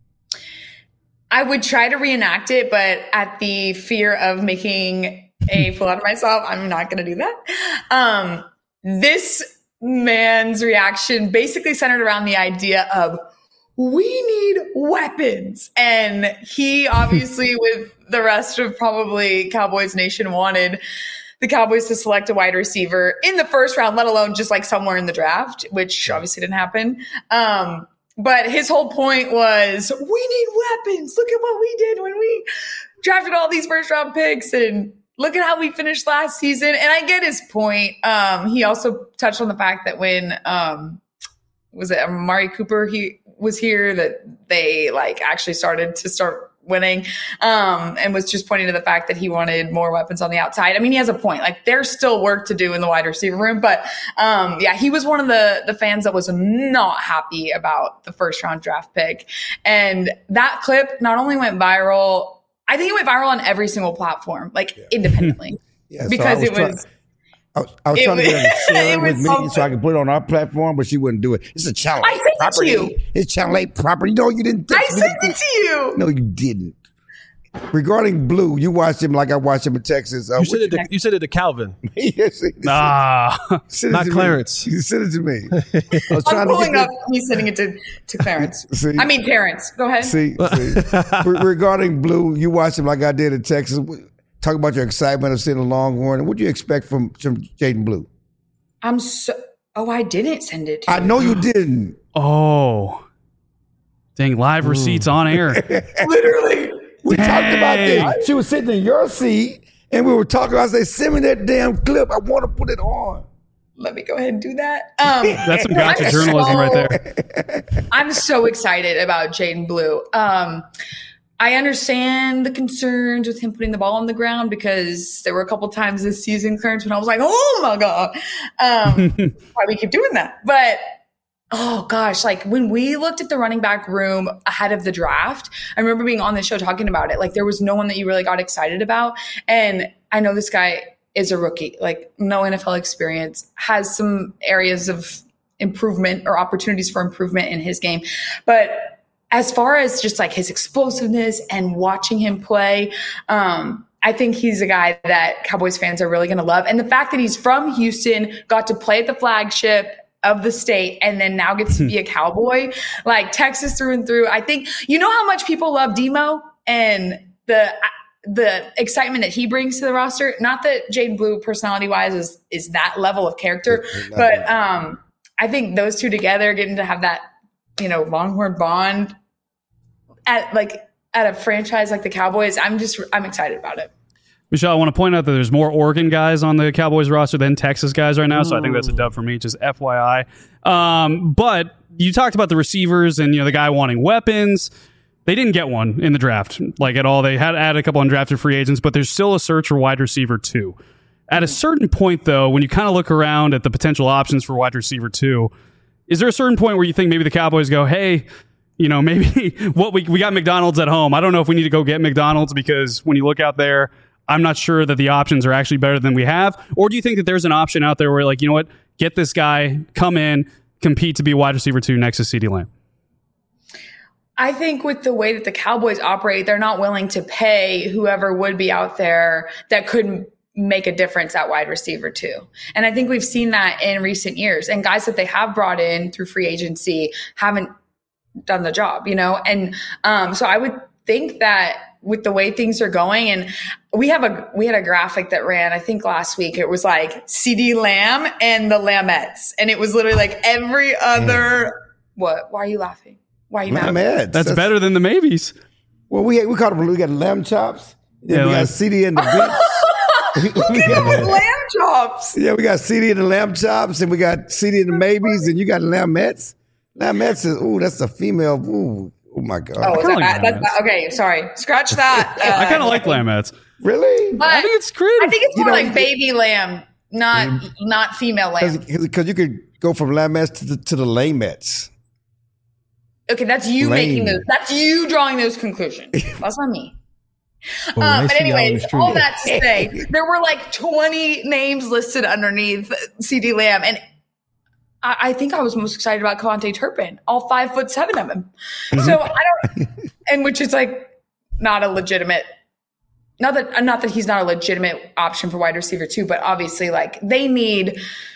I would try to reenact it, but at the fear of making a fool out of myself, I'm not going to do that. Um, this man's reaction basically centered around the idea of, we need weapons. And he obviously, with the rest of probably Cowboys Nation, wanted the Cowboys to select a wide receiver in the first round, let alone just like somewhere in the draft, which obviously didn't happen. Um, but his whole point was, we need weapons. Look at what we did when we drafted all these first round picks, and look at how we finished last season. And I get his point. Um, he also touched on the fact that when, um, was it Amari Cooper, he was here, that they like actually started to start winning, um, and was just pointing to the fact that he wanted more weapons on the outside. I mean, he has a point. Like, there's still work to do in the wide receiver room, but um, yeah, he was one of the the fans that was not happy about the first round draft pick. And that clip not only went viral, I think it went viral on every single platform, like yeah. independently, yeah, so because was it was. Try- I was, I was It trying to get her to share it it with was me something. so I could put it on our platform, but she wouldn't do it. It's a Channel I eight sent it to property. you. It's Channel eight property. No, you didn't. I text me sent the- it to you. No, you didn't. Regarding Blue, you watched him like I watched him in Texas. Uh, You said it. To, you said it to Calvin, yes, he- Ah, send it not to me. Clarence. You sent it to me. I was I'm trying to pulling get up. He's sending it to, to Clarence. See? I mean, Terrence. Go ahead. See, see. Re- regarding Blue, you watched him like I did in Texas. Talk about your excitement of seeing a Longhorn. What do you expect from, from Jaden Blue? I'm so. Oh, I didn't send it to I you. know you didn't. oh, dang! Live receipts on air. Literally. We Dang. talked about this. She was sitting in your seat, and we were talking. I said, send me that damn clip. I want to put it on. Let me go ahead and do that. Um, That's some no, gotcha I'm journalism so- right there. I'm so excited about Jaden Blue. Um, I understand the concerns with him putting the ball on the ground, because there were a couple times this season, Clarence, when I was like, oh my God, um, why we keep doing that? But oh gosh, like when we looked at the running back room ahead of the draft, I remember being on the show talking about it. Like, there was no one that you really got excited about. And I know this guy is a rookie, like no N F L experience, has some areas of improvement or opportunities for improvement in his game. But as far as just like his explosiveness and watching him play, um, I think he's a guy that Cowboys fans are really going to love. And the fact that he's from Houston, got to play at the flagship, of the state and then now gets to be a Cowboy, like Texas through and through. I think, you know how much people love Demo and the the excitement that he brings to the roster? Not that Jaden Blue personality wise is is that level of character, but um, I think those two together getting to have that, you know, Longhorn bond at like at a franchise like the Cowboys, I'm just I'm excited about it. Michelle, I want to point out that there's more Oregon guys on the Cowboys roster than Texas guys right now, so I think that's a dub for me, just F Y I. Um, but you talked about the receivers and, you know, the guy wanting weapons. They didn't get one in the draft, like at all. They had added a couple undrafted free agents, but there's still a search for wide receiver two. At a certain point, though, when you kind of look around at the potential options for wide receiver two, is there a certain point where you think maybe the Cowboys go, hey, you know, maybe what we we got McDonald's at home. I don't know if we need to go get McDonald's because when you look out there, I'm not sure that the options are actually better than we have. Or do you think that there's an option out there where, like, you know what, get this guy, come in, compete to be wide receiver two next to CeeDee Lamb? I think with the way that the Cowboys operate, they're not willing to pay whoever would be out there that could make a difference at wide receiver two. And I think we've seen that in recent years. And guys that they have brought in through free agency haven't done the job, you know? And um, so I would think that with the way things are going, and we have a we had a graphic that ran, I think last week, it was like CeeDee Lamb and the Lamettes. And it was literally like every other what? Why are you laughing? Why are you mad? That's, That's better than the maybes. Well, we we call them, we got lamb chops. Then Yeah, we like- got CeeDee and the bits. Look at him with lamb chops. Yeah, we got CeeDee and the lamb chops, and we got CeeDee and the maybes, and you got Lamettes. Lamettes is, ooh, that's a female. Ooh, oh my God. Oh, is kinda that like bad? Lamettes. That's, okay, sorry. Scratch that. I Uh, kind of like Lamettes. Really? But I think it's creative. I think it's You more know, like baby lamb, not not female lamb. Because you could go from Lamettes to the, to the Lamettes. Okay, that's you Lame. making those. That's you drawing those conclusions. That's not me. Well, Um, nice but to be out on the anyways, street. all that to say, there were like twenty names listed underneath CeeDee Lamb, and I, I think I was most excited about Kevontae Turpin, all five foot seven of him. So I don't, and which is like not a legitimate. Not that not that he's not a legitimate option for wide receiver too, but obviously like they need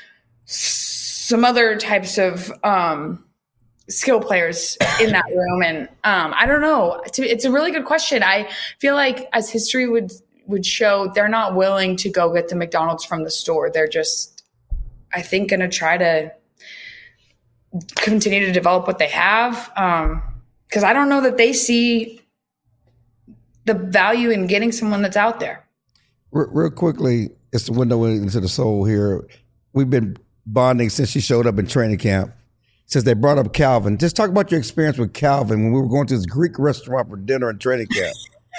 some other types of um, skill players in that room. And um, I don't know. It's a really good question. I feel like as history would would show, they're not willing to go get the McDonald's from the store. They're just, I think, going to try to continue to develop what they have. Um, because I don't know that they see the value in getting someone that's out there. Real, real quickly, it's the window into the soul here. We've been bonding since she showed up in training camp. Since they brought up Calvin, just talk about your experience with Calvin when we were going to this Greek restaurant for dinner in training camp.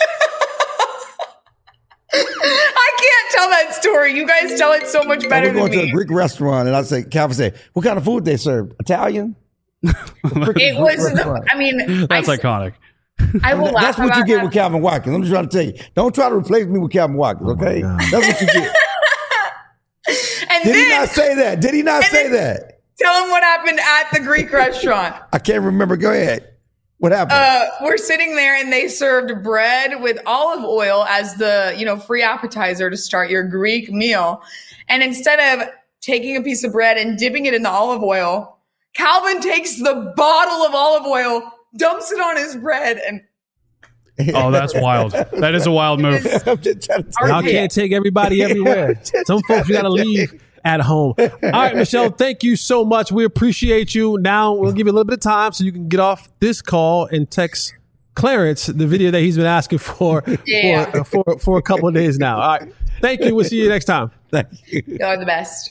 I can't tell that story. You guys tell it so much And better we're going than to a me. Greek restaurant, and I say, Calvin said, "What kind of food they serve? Italian?" It was, restaurant. I mean, That's I, iconic. I will laugh That's what about you get that. with Calvin Watkins. I'm just trying to tell you. Don't try to replace me with Calvin Watkins, okay? That's what you get. And Did then he not say that? Did he not and say then- that? tell him what happened at the Greek restaurant. I can't remember. Go ahead. What happened? Uh, we're sitting there and they served bread with olive oil as the, you know, free appetizer to start your Greek meal. And instead of taking a piece of bread and dipping it in the olive oil, Calvin takes the bottle of olive oil, dumps it on his bread, and Oh, that's wild. That is a wild move. I'm just trying to tell Y'all you. can't take everybody everywhere. Some folks you got to leave at home. All right, Michelle, thank you so much. We appreciate you. Now we'll give you a little bit of time so you can get off this call and text Clarence the video that he's been asking for Yeah. for, for for a couple of days now. All right, thank you. We'll see you next time. Thank you. you're the best.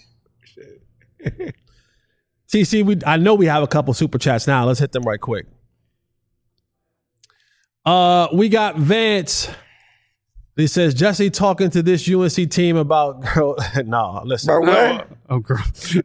T C, we I know we have a couple super chats now. Let's hit them right quick. Uh, we got Vance. He says Jesse talking to this U N C team about girl. No, listen. Bro, what? Oh, girl.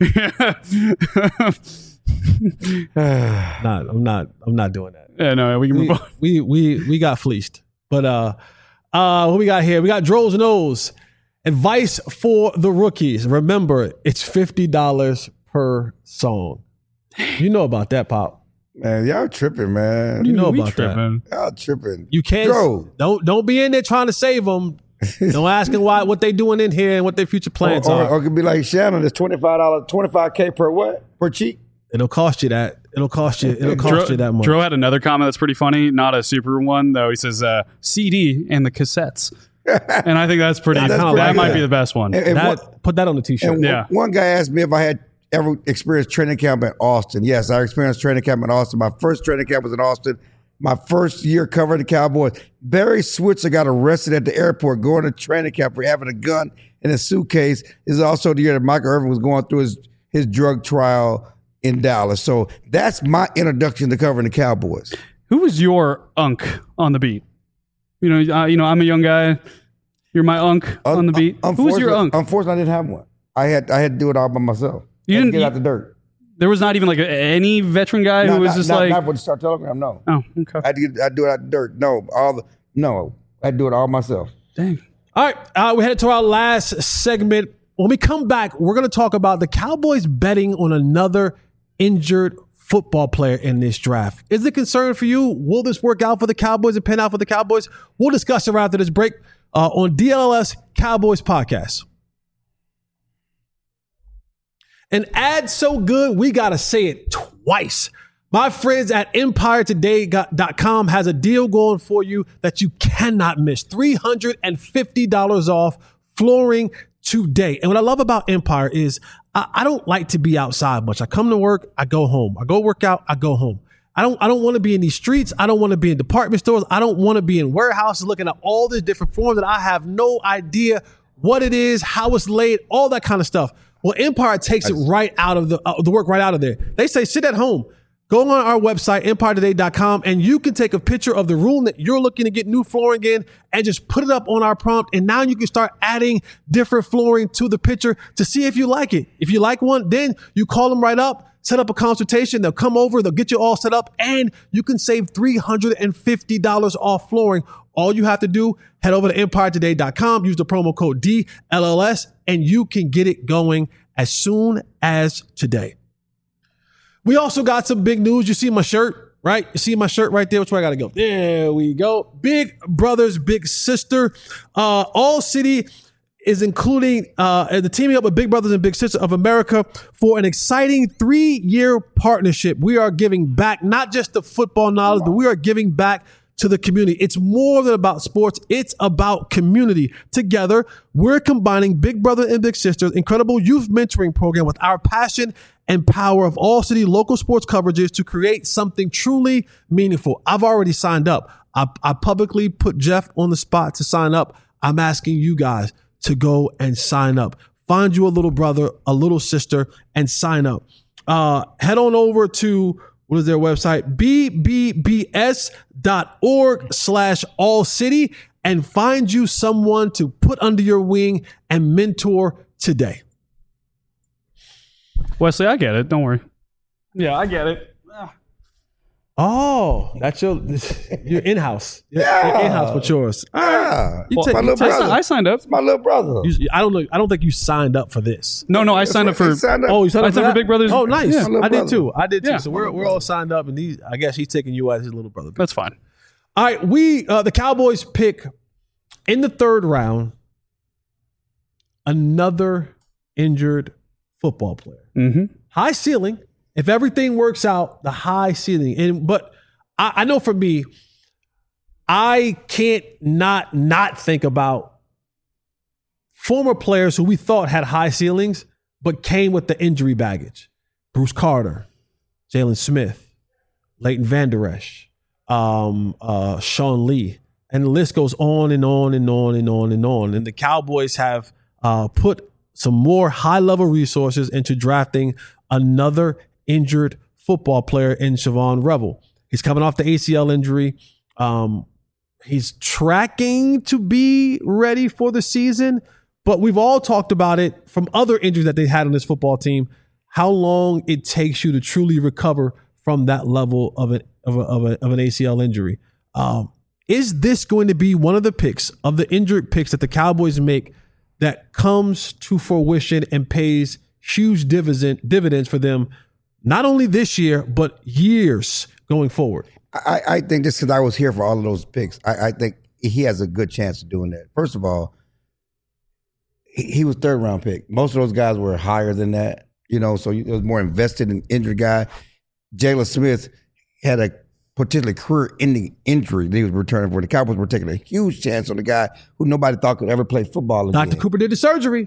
Not, I'm not. I'm not doing that. Yeah, no, we can move We, on. we we we got fleeced. But uh, uh, what we got here? We got Dro's Nose. Advice for the rookies. Remember, it's fifty dollars per song. You know about that, Pop. Man, y'all tripping, man. You know We about that. tripping. Y'all tripping. You can't. Dro. Don't don't be in there trying to save them. Don't ask them why, what they doing in here and what their future plans or, or, are. or it could be like Shannon, it's twenty-five dollars, twenty-five K per what? Per cheek? It'll cost you that. It'll cost you. It'll cost Dro, you that much. Dro had another comment that's pretty funny. Not a super one though. He says uh, C D and the cassettes, and I think that's pretty. That's that pretty might good. be the best one. And, and That- one, put that on the t-shirt. and Yeah. one guy asked me if I had ever experienced training camp at Austin. Yes, I experienced training camp in Austin. My first training camp was in Austin. My first year covering the Cowboys. Barry Switzer got arrested at the airport going to training camp for having a gun in a suitcase. This is also the year that Michael Irvin was going through his, his drug trial in Dallas. So that's my introduction to covering the Cowboys. Who was your unk on the beat? You know, uh, you know, I'm a young guy. You're my unk on the beat. Who was your unk? Unfortunately, I didn't have one. I had I had to do it all by myself. You I had to didn't- get you- out the dirt. There was not even like a, any veteran guy No, who was not, just not, like, not with the Star Telegram. No, oh, okay, I had to get, I do it out the dirt. No, all the no, I do it all myself. dang. All right, uh, we headed to our last segment. When we come back, we're going to talk about the Cowboys betting on another injured football player in this draft. Is it a concern for you? Will this work out for the Cowboys and pan out for the Cowboys? We'll discuss it right after this break uh, on D L L S Cowboys Podcast. An ad so good, we got to say it twice. My friends at empire today dot com has a deal going for you that you cannot miss. three hundred fifty dollars off flooring today. And what I love about Empire is I, I don't like to be outside much. I come to work, I go home. I go work out, I go home. I don't I don't want to be in these streets. I don't want to be in department stores. I don't want to be in warehouses looking at all these different forms that I have no idea what it is, how it's laid, all that kind of stuff. Well, Empire takes it right out of the uh, the work right out of there. They say sit at home. Go on our website, empire today dot com, and you can take a picture of the room that you're looking to get new flooring in and just put it up on our prompt. And now you can start adding different flooring to the picture to see if you like it. If you like one, then you call them right up, set up a consultation. They'll come over, they'll get you all set up, and you can save three hundred fifty dollars off flooring. All you have to do, head over to empire today dot com, use the promo code D L L S, and you can get it going as soon as today. We also got some big news. You see my shirt, right? You see my shirt right there? Which way I got to go? There we go. Big Brothers, Big Sister. Uh, All City is including uh, the teaming up with Big Brothers and Big Sister of America for an exciting three-year partnership. We are giving back not just the football knowledge, but we are giving back to the community. It's more than about sports. It's about community. Together, we're combining Big Brother and Big Sister's incredible youth mentoring program with our passion and power of All City local sports coverages to create something truly meaningful. I've already signed up. I, I publicly put Jeff on the spot to sign up. I'm asking you guys to go and sign up. Find you a little brother, a little sister, and sign up. Uh, head on over to What is their website? B B B S dot org slash all city and find you someone to put under your wing and mentor today. Wesley, I get it. Don't worry. Yeah, I get it. Oh, that's your your in-house. Your, Yeah. your in-house with yours. Yeah. You take- my you little take- I, si- brother. I signed up. my little brother. You- I don't know. I don't think you signed up for this. No, no, I signed up He for. signed up. Oh, you signed I up for, signed for that? Big Brothers. Oh, nice. Yeah. My I did little too. I did too. Yeah. So we're we're all signed up, and these, I guess he's taking you as his little brother. That's fine. All right, we uh, the Cowboys pick in the third round another injured football player. Mm-hmm. High ceiling. If everything works out, the high ceiling. And but I, I know for me, I can't not not think about former players who we thought had high ceilings, but came with the injury baggage. Bruce Carter, Jalen Smith, Leighton Vander Esch, um, uh, Sean Lee, and the list goes on and on and on and on and on. And the Cowboys have uh, put some more high-level resources into drafting another injured football player in Siobhan Revel. He's coming off the A C L injury. Um, he's tracking to be ready for the season, but we've all talked about it from other injuries that they had on this football team, how long it takes you to truly recover from that level of, a, of, a, of, a, of an A C L injury. Um, is this going to be one of the picks of the injured picks that the Cowboys make that comes to fruition and pays huge dividend, dividends for them, not only this year, but years going forward? I, I think just because I was here for all of those picks, I, I think he has a good chance of doing that. First of all, he, he was third round pick. Most of those guys were higher than that, you know, so he was more invested in injured guy. Jalen Smith had a potentially career-ending injury that he was returning for. The Cowboys were taking a huge chance on the guy who nobody thought could ever play football again. Doctor Cooper did the surgery.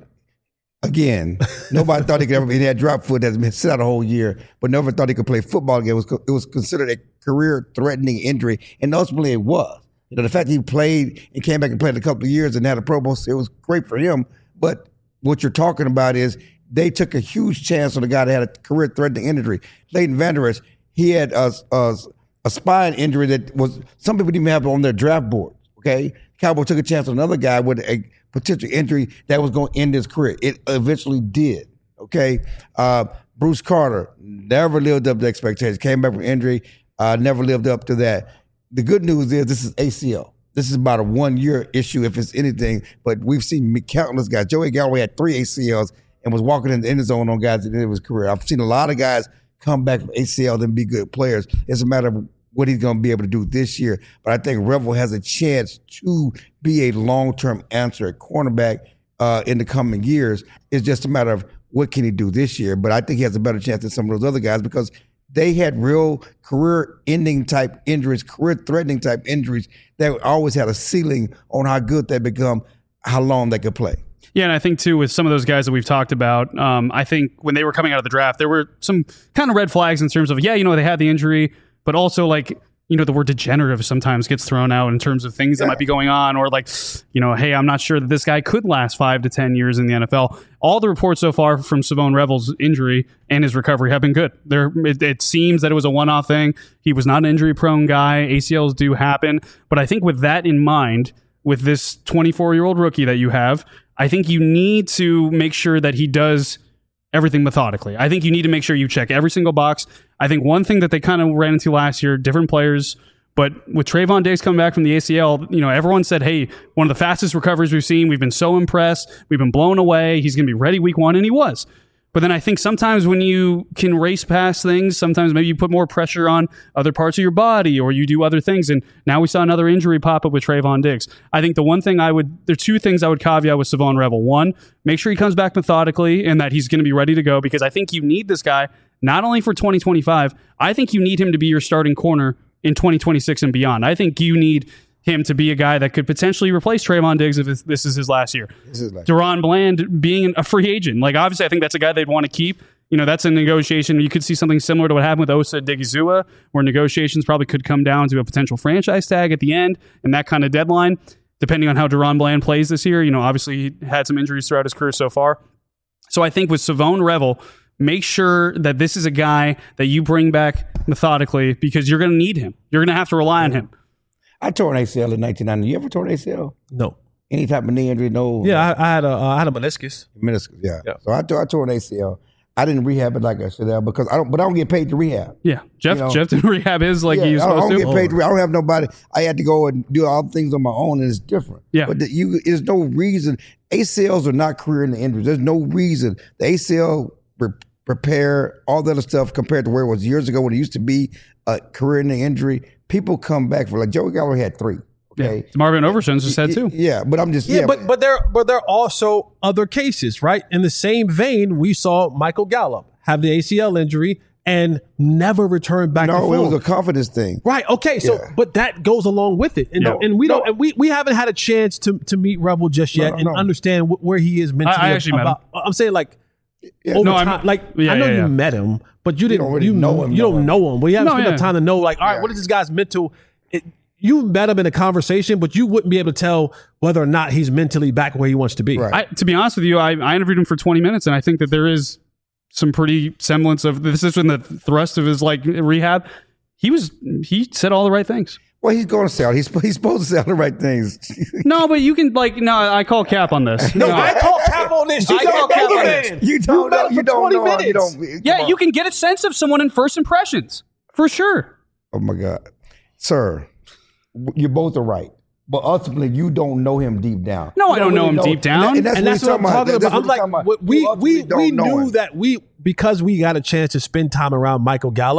Again, nobody thought he could ever be. He had drop foot that's been sit out a whole year, but never thought he could play football again. It was, it was considered a career-threatening injury, and ultimately it was. You know, the fact that he played and came back and played a couple of years and had a Pro Bowl, it was great for him. But what you're talking about is they took a huge chance on a guy that had a career-threatening injury. Leighton Vander Esch, he had a, a, a spine injury that was some people didn't even have on their draft board. Okay, Cowboys took a chance on another guy with a potential injury that was going to end his career. It eventually did. Okay, uh, Bruce Carter never lived up to expectations. Came back from injury, uh, never lived up to that. The good news is this is A C L. This is about a one-year issue if it's anything. But we've seen countless guys. Joey Galloway had three A C Ls and was walking in the end zone on guys at the end of his career. I've seen a lot of guys come back from A C L and be good players. It's a matter of what he's going to be able to do this year. But I think Revel has a chance to be a long-term answer at cornerback uh, in the coming years. It's just a matter of what can he do this year. But I think he has a better chance than some of those other guys because they had real career-ending type injuries, career-threatening type injuries that always had a ceiling on how good they become, how long they could play. Yeah, and I think, too, with some of those guys that we've talked about, um, I think when they were coming out of the draft, there were some kind of red flags in terms of, yeah, you know, they had the injury, but also, like, you know, the word degenerative sometimes gets thrown out in terms of things that might be going on, or like, you know, hey, I'm not sure that this guy could last five to ten years in the N F L. All the reports so far from Savone Revel's injury and his recovery have been good. There, it, it seems that it was a one-off thing. He was not an injury-prone guy. A C Ls do happen. But I think with that in mind, with this twenty-four-year-old rookie that you have, I think you need to make sure that he does everything methodically. I think you need to make sure you check every single box. I think one thing that they kind of ran into last year, different players, but with Trayvon Diggs coming back from the A C L, you know, everyone said, hey, one of the fastest recoveries we've seen. We've been so impressed. We've been blown away. He's going to be ready week one, and he was. But then I think sometimes when you can race past things, sometimes maybe you put more pressure on other parts of your body or you do other things. And now we saw another injury pop up with Trayvon Diggs. I think the one thing I would, there are two things I would caveat with Savone Revel. One, make sure he comes back methodically and that he's going to be ready to go, because I think you need this guy not only for twenty twenty-five, I think you need him to be your starting corner in twenty twenty-six and beyond. I think you need him to be a guy that could potentially replace Trayvon Diggs if this is his last year. Like- Deron Bland being a free agent. Like, obviously, I think that's a guy they'd want to keep. You know, that's a negotiation. You could see something similar to what happened with Osa Odigizua, where negotiations probably could come down to a potential franchise tag at the end and that kind of deadline, depending on how Deron Bland plays this year. You know, obviously, he had some injuries throughout his career so far. So I think with Savone Revel, make sure that this is a guy that you bring back methodically, because you're going to need him. You're going to have to rely on him. I tore an A C L in nineteen ninety. You ever tore an A C L? No. Any type of knee injury? No. Yeah, I, I had a uh, I had a meniscus. Meniscus, yeah. Yeah. So I tore, I tore an A C L. I didn't rehab it like I should have because I don't. But I don't get paid to rehab. Yeah, Jeff. You know? Jeff didn't rehab his like yeah, he was I don't, supposed I don't to. get paid to. Re- I don't have nobody. I had to go and do all the things on my own, and it's different. Yeah. But the, you, there's no reason. A C Ls are not career-ending injuries. There's no reason the A C L re- repair, all that other stuff compared to where it was years ago when it used to be a career-ending injury. People come back for like Joey Galloway had three. Okay. Yeah. Marvin Overshown just had two. Yeah, but I'm just Yeah, yeah, but but there but there are also other cases, right? In the same vein, we saw Michael Gallup have the A C L injury and never return back to no, form. it was a confidence thing. Right. Okay. So, Yeah. but that goes along with it, and, Yeah. and we don't. And we, we haven't had a chance to to meet Revel just yet No, and no. understand wh- where he is mentally. I actually met about, I'm saying like Yeah. over No, I'm- time. Like yeah, I know yeah, you yeah. met him, but you didn't. don't really you know him, You know don't him. know him. We haven't No, spent yeah. enough time to know. Like, all right, Yeah. what is this guy's mental? It, you met him in a conversation, but you wouldn't be able to tell whether or not he's mentally back where he wants to be. Right. I, to be honest with you, I, I interviewed him for twenty minutes, and I think that there is some pretty semblance of this is in the thrust of his like rehab. He was he said all the right things. Well, he's going to sell. He's he's supposed to say all the right things. No, but you can like no, I call cap on this. No, No. I call cap on this. You I call got cap on man. this. You don't met know. him You for don't twenty know. him. You minutes. don't. Yeah, come you on. can get a sense of someone in first impressions for sure. Oh my God, sir, you both are right, but ultimately you don't know him deep down. No, You I don't know him really deep down. And, that- And that's what what I'm he's talking That's about. I'm what like, he's talking about. we You we ultimately we don't know knew him. that we because we got a chance to spend time around Michael Gallup.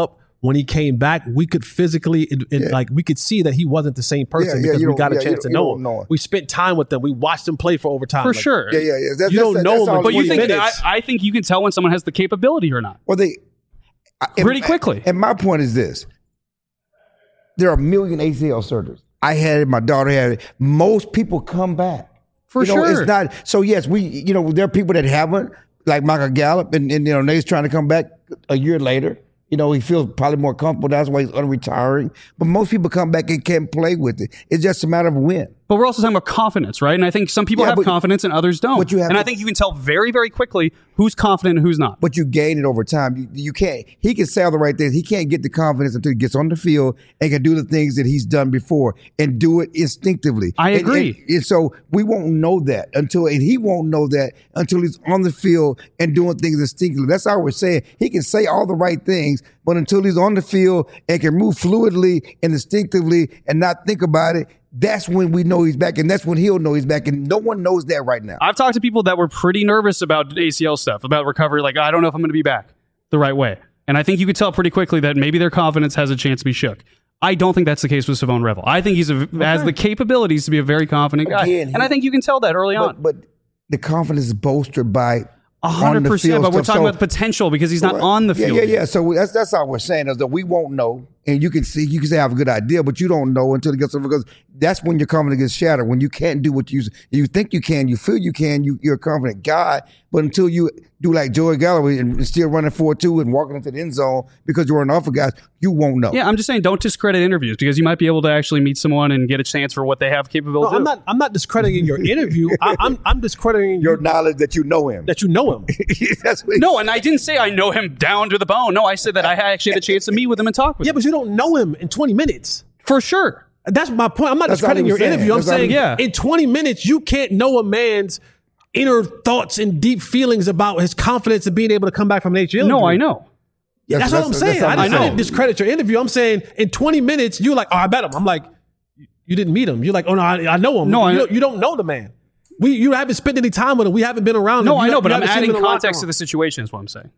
when he came back, we could physically, it, it, Yeah. like, we could see that he wasn't the same person Yeah, yeah, because you we don't- got a yeah, chance you to don't- know you him. don't know him. We spent time with them. We watched him play for over time. For Like, sure. Yeah, yeah, yeah. That's, You that's, don't know that's him, all But you twenty think I, minutes. I think you can tell when someone has the capability or not. Well, they I- Pretty and- quickly. And my point is this: there are a million A C L surgeries. I had it. My daughter had it. Most people come back. For you know, sure. It's not. So yes, we. You know, there are people that haven't, like Michael Gallup, and, and you know, Nate's trying to come back a year later. You know, he feels probably more comfortable. That's why he's unretiring. But most people come back and can't play with it. It's just a matter of when. But we're also talking about confidence, right? And I think some people Yeah, have but- confidence and others don't. but you have and I to- think you can tell very, very quickly who's confident and who's not. But you gain it over time. You, you can't. He can say all the right things. He can't get the confidence until he gets on the field and can do the things that he's done before and do it instinctively. I And- agree. And, and so we won't know that until, and he won't know that until he's on the field and doing things instinctively. That's all we're saying. He can say all the right things, but until he's on the field and can move fluidly and instinctively and not think about it, that's when we know he's back, and that's when he'll know he's back, and no one knows that right now. I've talked to people that were pretty nervous about A C L stuff, about recovery. Like, I don't know if I'm going to be back the right way. And I think you could tell pretty quickly that maybe their confidence has a chance to be shook. I don't think that's the case with Savon Revel. I think he's a, has the capabilities to be a very confident guy. Again, and I think you can tell that early on. But, but the confidence is bolstered by A on hundred the percent. field But we're stuff. talking So- about potential because he's not on the yeah, field. Yeah, yeah. So that's that's all we're saying is that we won't know, and you can see, you can say I have a good idea, but you don't know until it gets over, because that's when your confidence gets shattered. When you can't do what you you think you can, you feel you can, you, you're a confident guy, but until you do like Joey Galloway and still running four two and walking into the end zone because you're an awful guy, you won't know. Yeah, I'm just saying, don't discredit interviews because you might be able to actually meet someone and get a chance for what they have capability. No, to I'm do. not. I'm not discrediting your interview. I, I'm. I'm discrediting Your your knowledge that you know him. that you know him. that's what No, and I didn't say I know him down to the bone. No, I said that I actually had a chance to meet with him and talk with Yeah, him. but you don't know him in twenty minutes. For sure. That's my point. I'm not That's all he discrediting your was saying. interview. I'm That's all he- saying Yeah. in twenty minutes, you can't know a man's inner thoughts and deep feelings about his confidence of being able to come back from an H L. No, injury. I know. Yeah, that's, That's- what I'm that's- saying. that's I, all didn't, I'm I saying. didn't discredit your interview. I'm saying in twenty minutes, you're like, oh, I bet him. I'm like, you didn't meet him. You're like, oh no, I, I know him. No, you, I- don't, you don't know the man. We you haven't spent any time with him. We haven't been around him. No, You I know, ha- but you I'm haven't seen adding him in the locker context to room. the situation is what I'm saying.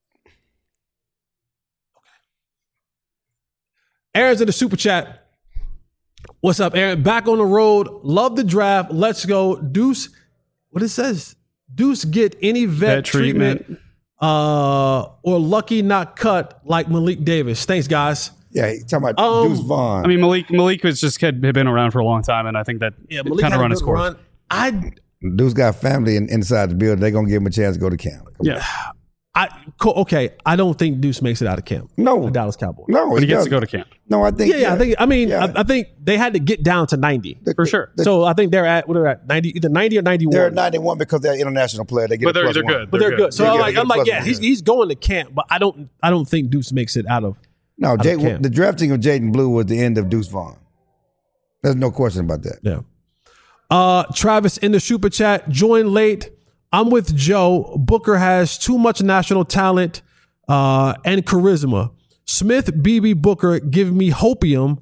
Aaron's in the super chat. What's up, Aaron? Back on the road. Love the draft. Let's go. Deuce, what it says? Deuce get any vet, Vet treatment, treatment. uh, or lucky not cut like Malik Davis. Thanks, guys. Yeah, he talking about Um, Deuce Vaughn. I mean, Malik Malik was just had had been around for a long time, and I think that Yeah, it Malik kind had of a run good its course. run. I, Deuce got family in, inside the building. They're gonna give him a chance to go to camp. Yeah, I, co- okay. I don't think Deuce makes it out of camp. No. the Dallas Cowboys. No, but he gets doesn't. to go to camp No, I think. Yeah, yeah. I think. I mean, Yeah. I, I think they had to get down to ninety for sure. so I think they're at what are they at ninety, either ninety or ninety-one. They're at ninety-one because they're an international player. They get But a they're plus they're one. good. but they're good. So They're I'm good. like, They get I'm a like, plus yeah, one, he's yeah. he's going to camp, but I don't I don't think Deuce makes it out of. No, of Jay, camp. the drafting of Jaden Blue was the end of Deuce Vaughn. There's no question about that. Yeah. Uh, Travis in the super chat, join late. I'm with Joe. Booker has too much national talent uh, and charisma. Smith, B B, Booker, give me hopium.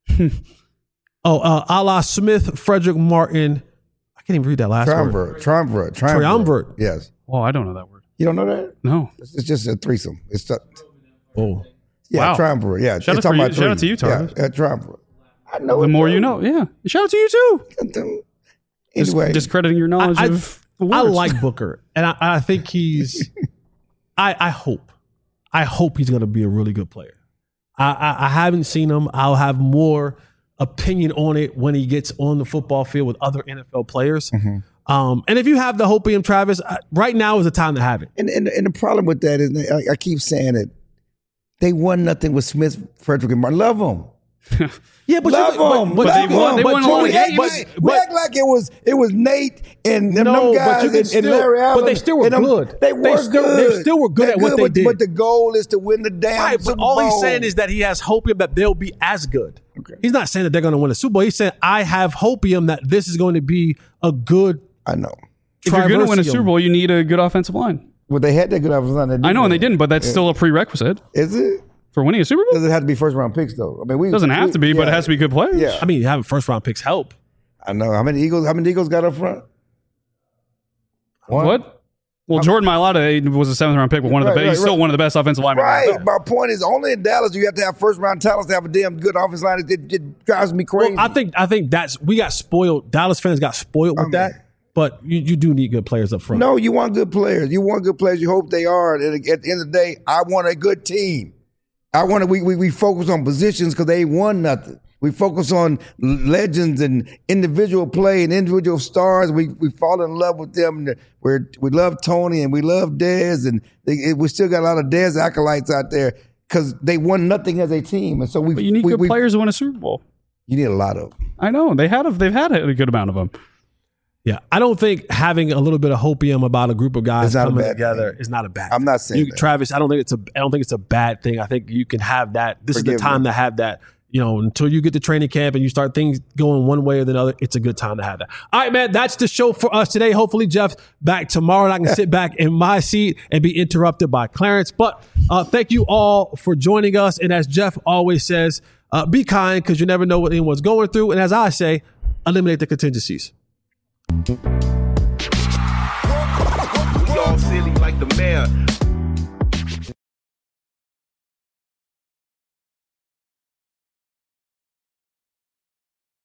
oh, uh, a la Smith, Frederick Martin. I can't even read that last word. Triumvirate, triumvirate, triumvirate. Triumvirate. Yes. Oh, I don't know that word. You don't know that? No. It's, it's just a threesome. It's a, Oh, yeah, Wow. triumvirate. Yeah. Shout it's out talking for about you- shout out three. to you, Tarvis. Yeah, yeah, triumvirate. I know The it, more though. you know. Yeah. Shout out to you too. Just Anyway, discrediting your knowledge I, of the I words. like Booker, and I, I think he's. I, I hope, I hope he's going to be a really good player. I, I, I haven't seen him. I'll have more opinion on it when he gets on the football field with other N F L players. Mm-hmm. Um, and if you have the hopium, Travis, I, right now is the time to have it. and, and and the problem with that is, I, I keep saying it. They won nothing with Smith, Frederick, and Martin. Love them. Yeah, but Love you, but, them. but, But they won- they but won a you- lot of we, act games. like, but- we but- act like it was it was Nate and them, No, them guys but you can and, and still- Larry Allen. but they still were and them- good. They They were still- good. they still were good They're at what they but, did. But the goal is to win the damn Right, but Super all he's Bowl. saying is that he has hopium that they'll be as good. Okay. He's not saying that they're going to win a Super Bowl. He's saying I have hopium that this is going to be a good. I know. If you're going to win a Triversium. Super Bowl, you need a good offensive line. Well, they had that good offensive line. I know, and they didn't, but that's still a prerequisite Is it? for winning a Super Bowl. Does it have to be first round picks though? I mean, we It doesn't have we- to be, but it yeah. has to be good players. Yeah. I mean, having first round picks help. I know. How many Eagles? How many Eagles got up front? One? What? Well, Jordan Mailata was a seventh round pick, but one of the Right, best. right, He's still right. one of the best offensive linemen. in the Right. N F L. My point is, only in Dallas you have to have first round talents to have a damn good offensive line. It, it drives me crazy. Well, I think I think that's we got spoiled. Dallas fans got spoiled with I mean- that. But you, you do need good players up front. No, you want good players. You want good players. You hope they are. And at the end of the day, I want a good team. I want to. We we, we focus on positions because they ain't won nothing. We focus on legends and individual play and individual stars. We we fall in love with them. We we love Tony and we love Dez, and they, we still got a lot of Dez acolytes out there because they won nothing as a team. And so we. But you need we, good we, players to win a Super Bowl. You need a lot of them. I know they had a, they've had a good amount of them. Yeah, I don't think having a little bit of hopium about a group of guys It's not a coming bad together thing. is not a bad. I'm thing. not saying You- that. Travis. I don't think it's a. I don't think it's a bad thing. I think you can have that. This Forgive is the time me. to have that. You know, until you get to training camp and you start things going one way or the other, it's a good time to have that. All right, man, that's the show for us today. Hopefully, Jeff's back tomorrow and I can sit back in my seat and be interrupted by Clarence. But uh, thank you all for joining us. And as Jeff always says, uh, be kind because you never know what anyone's going through. And as I say, eliminate the contingencies. We all silly like the mayor.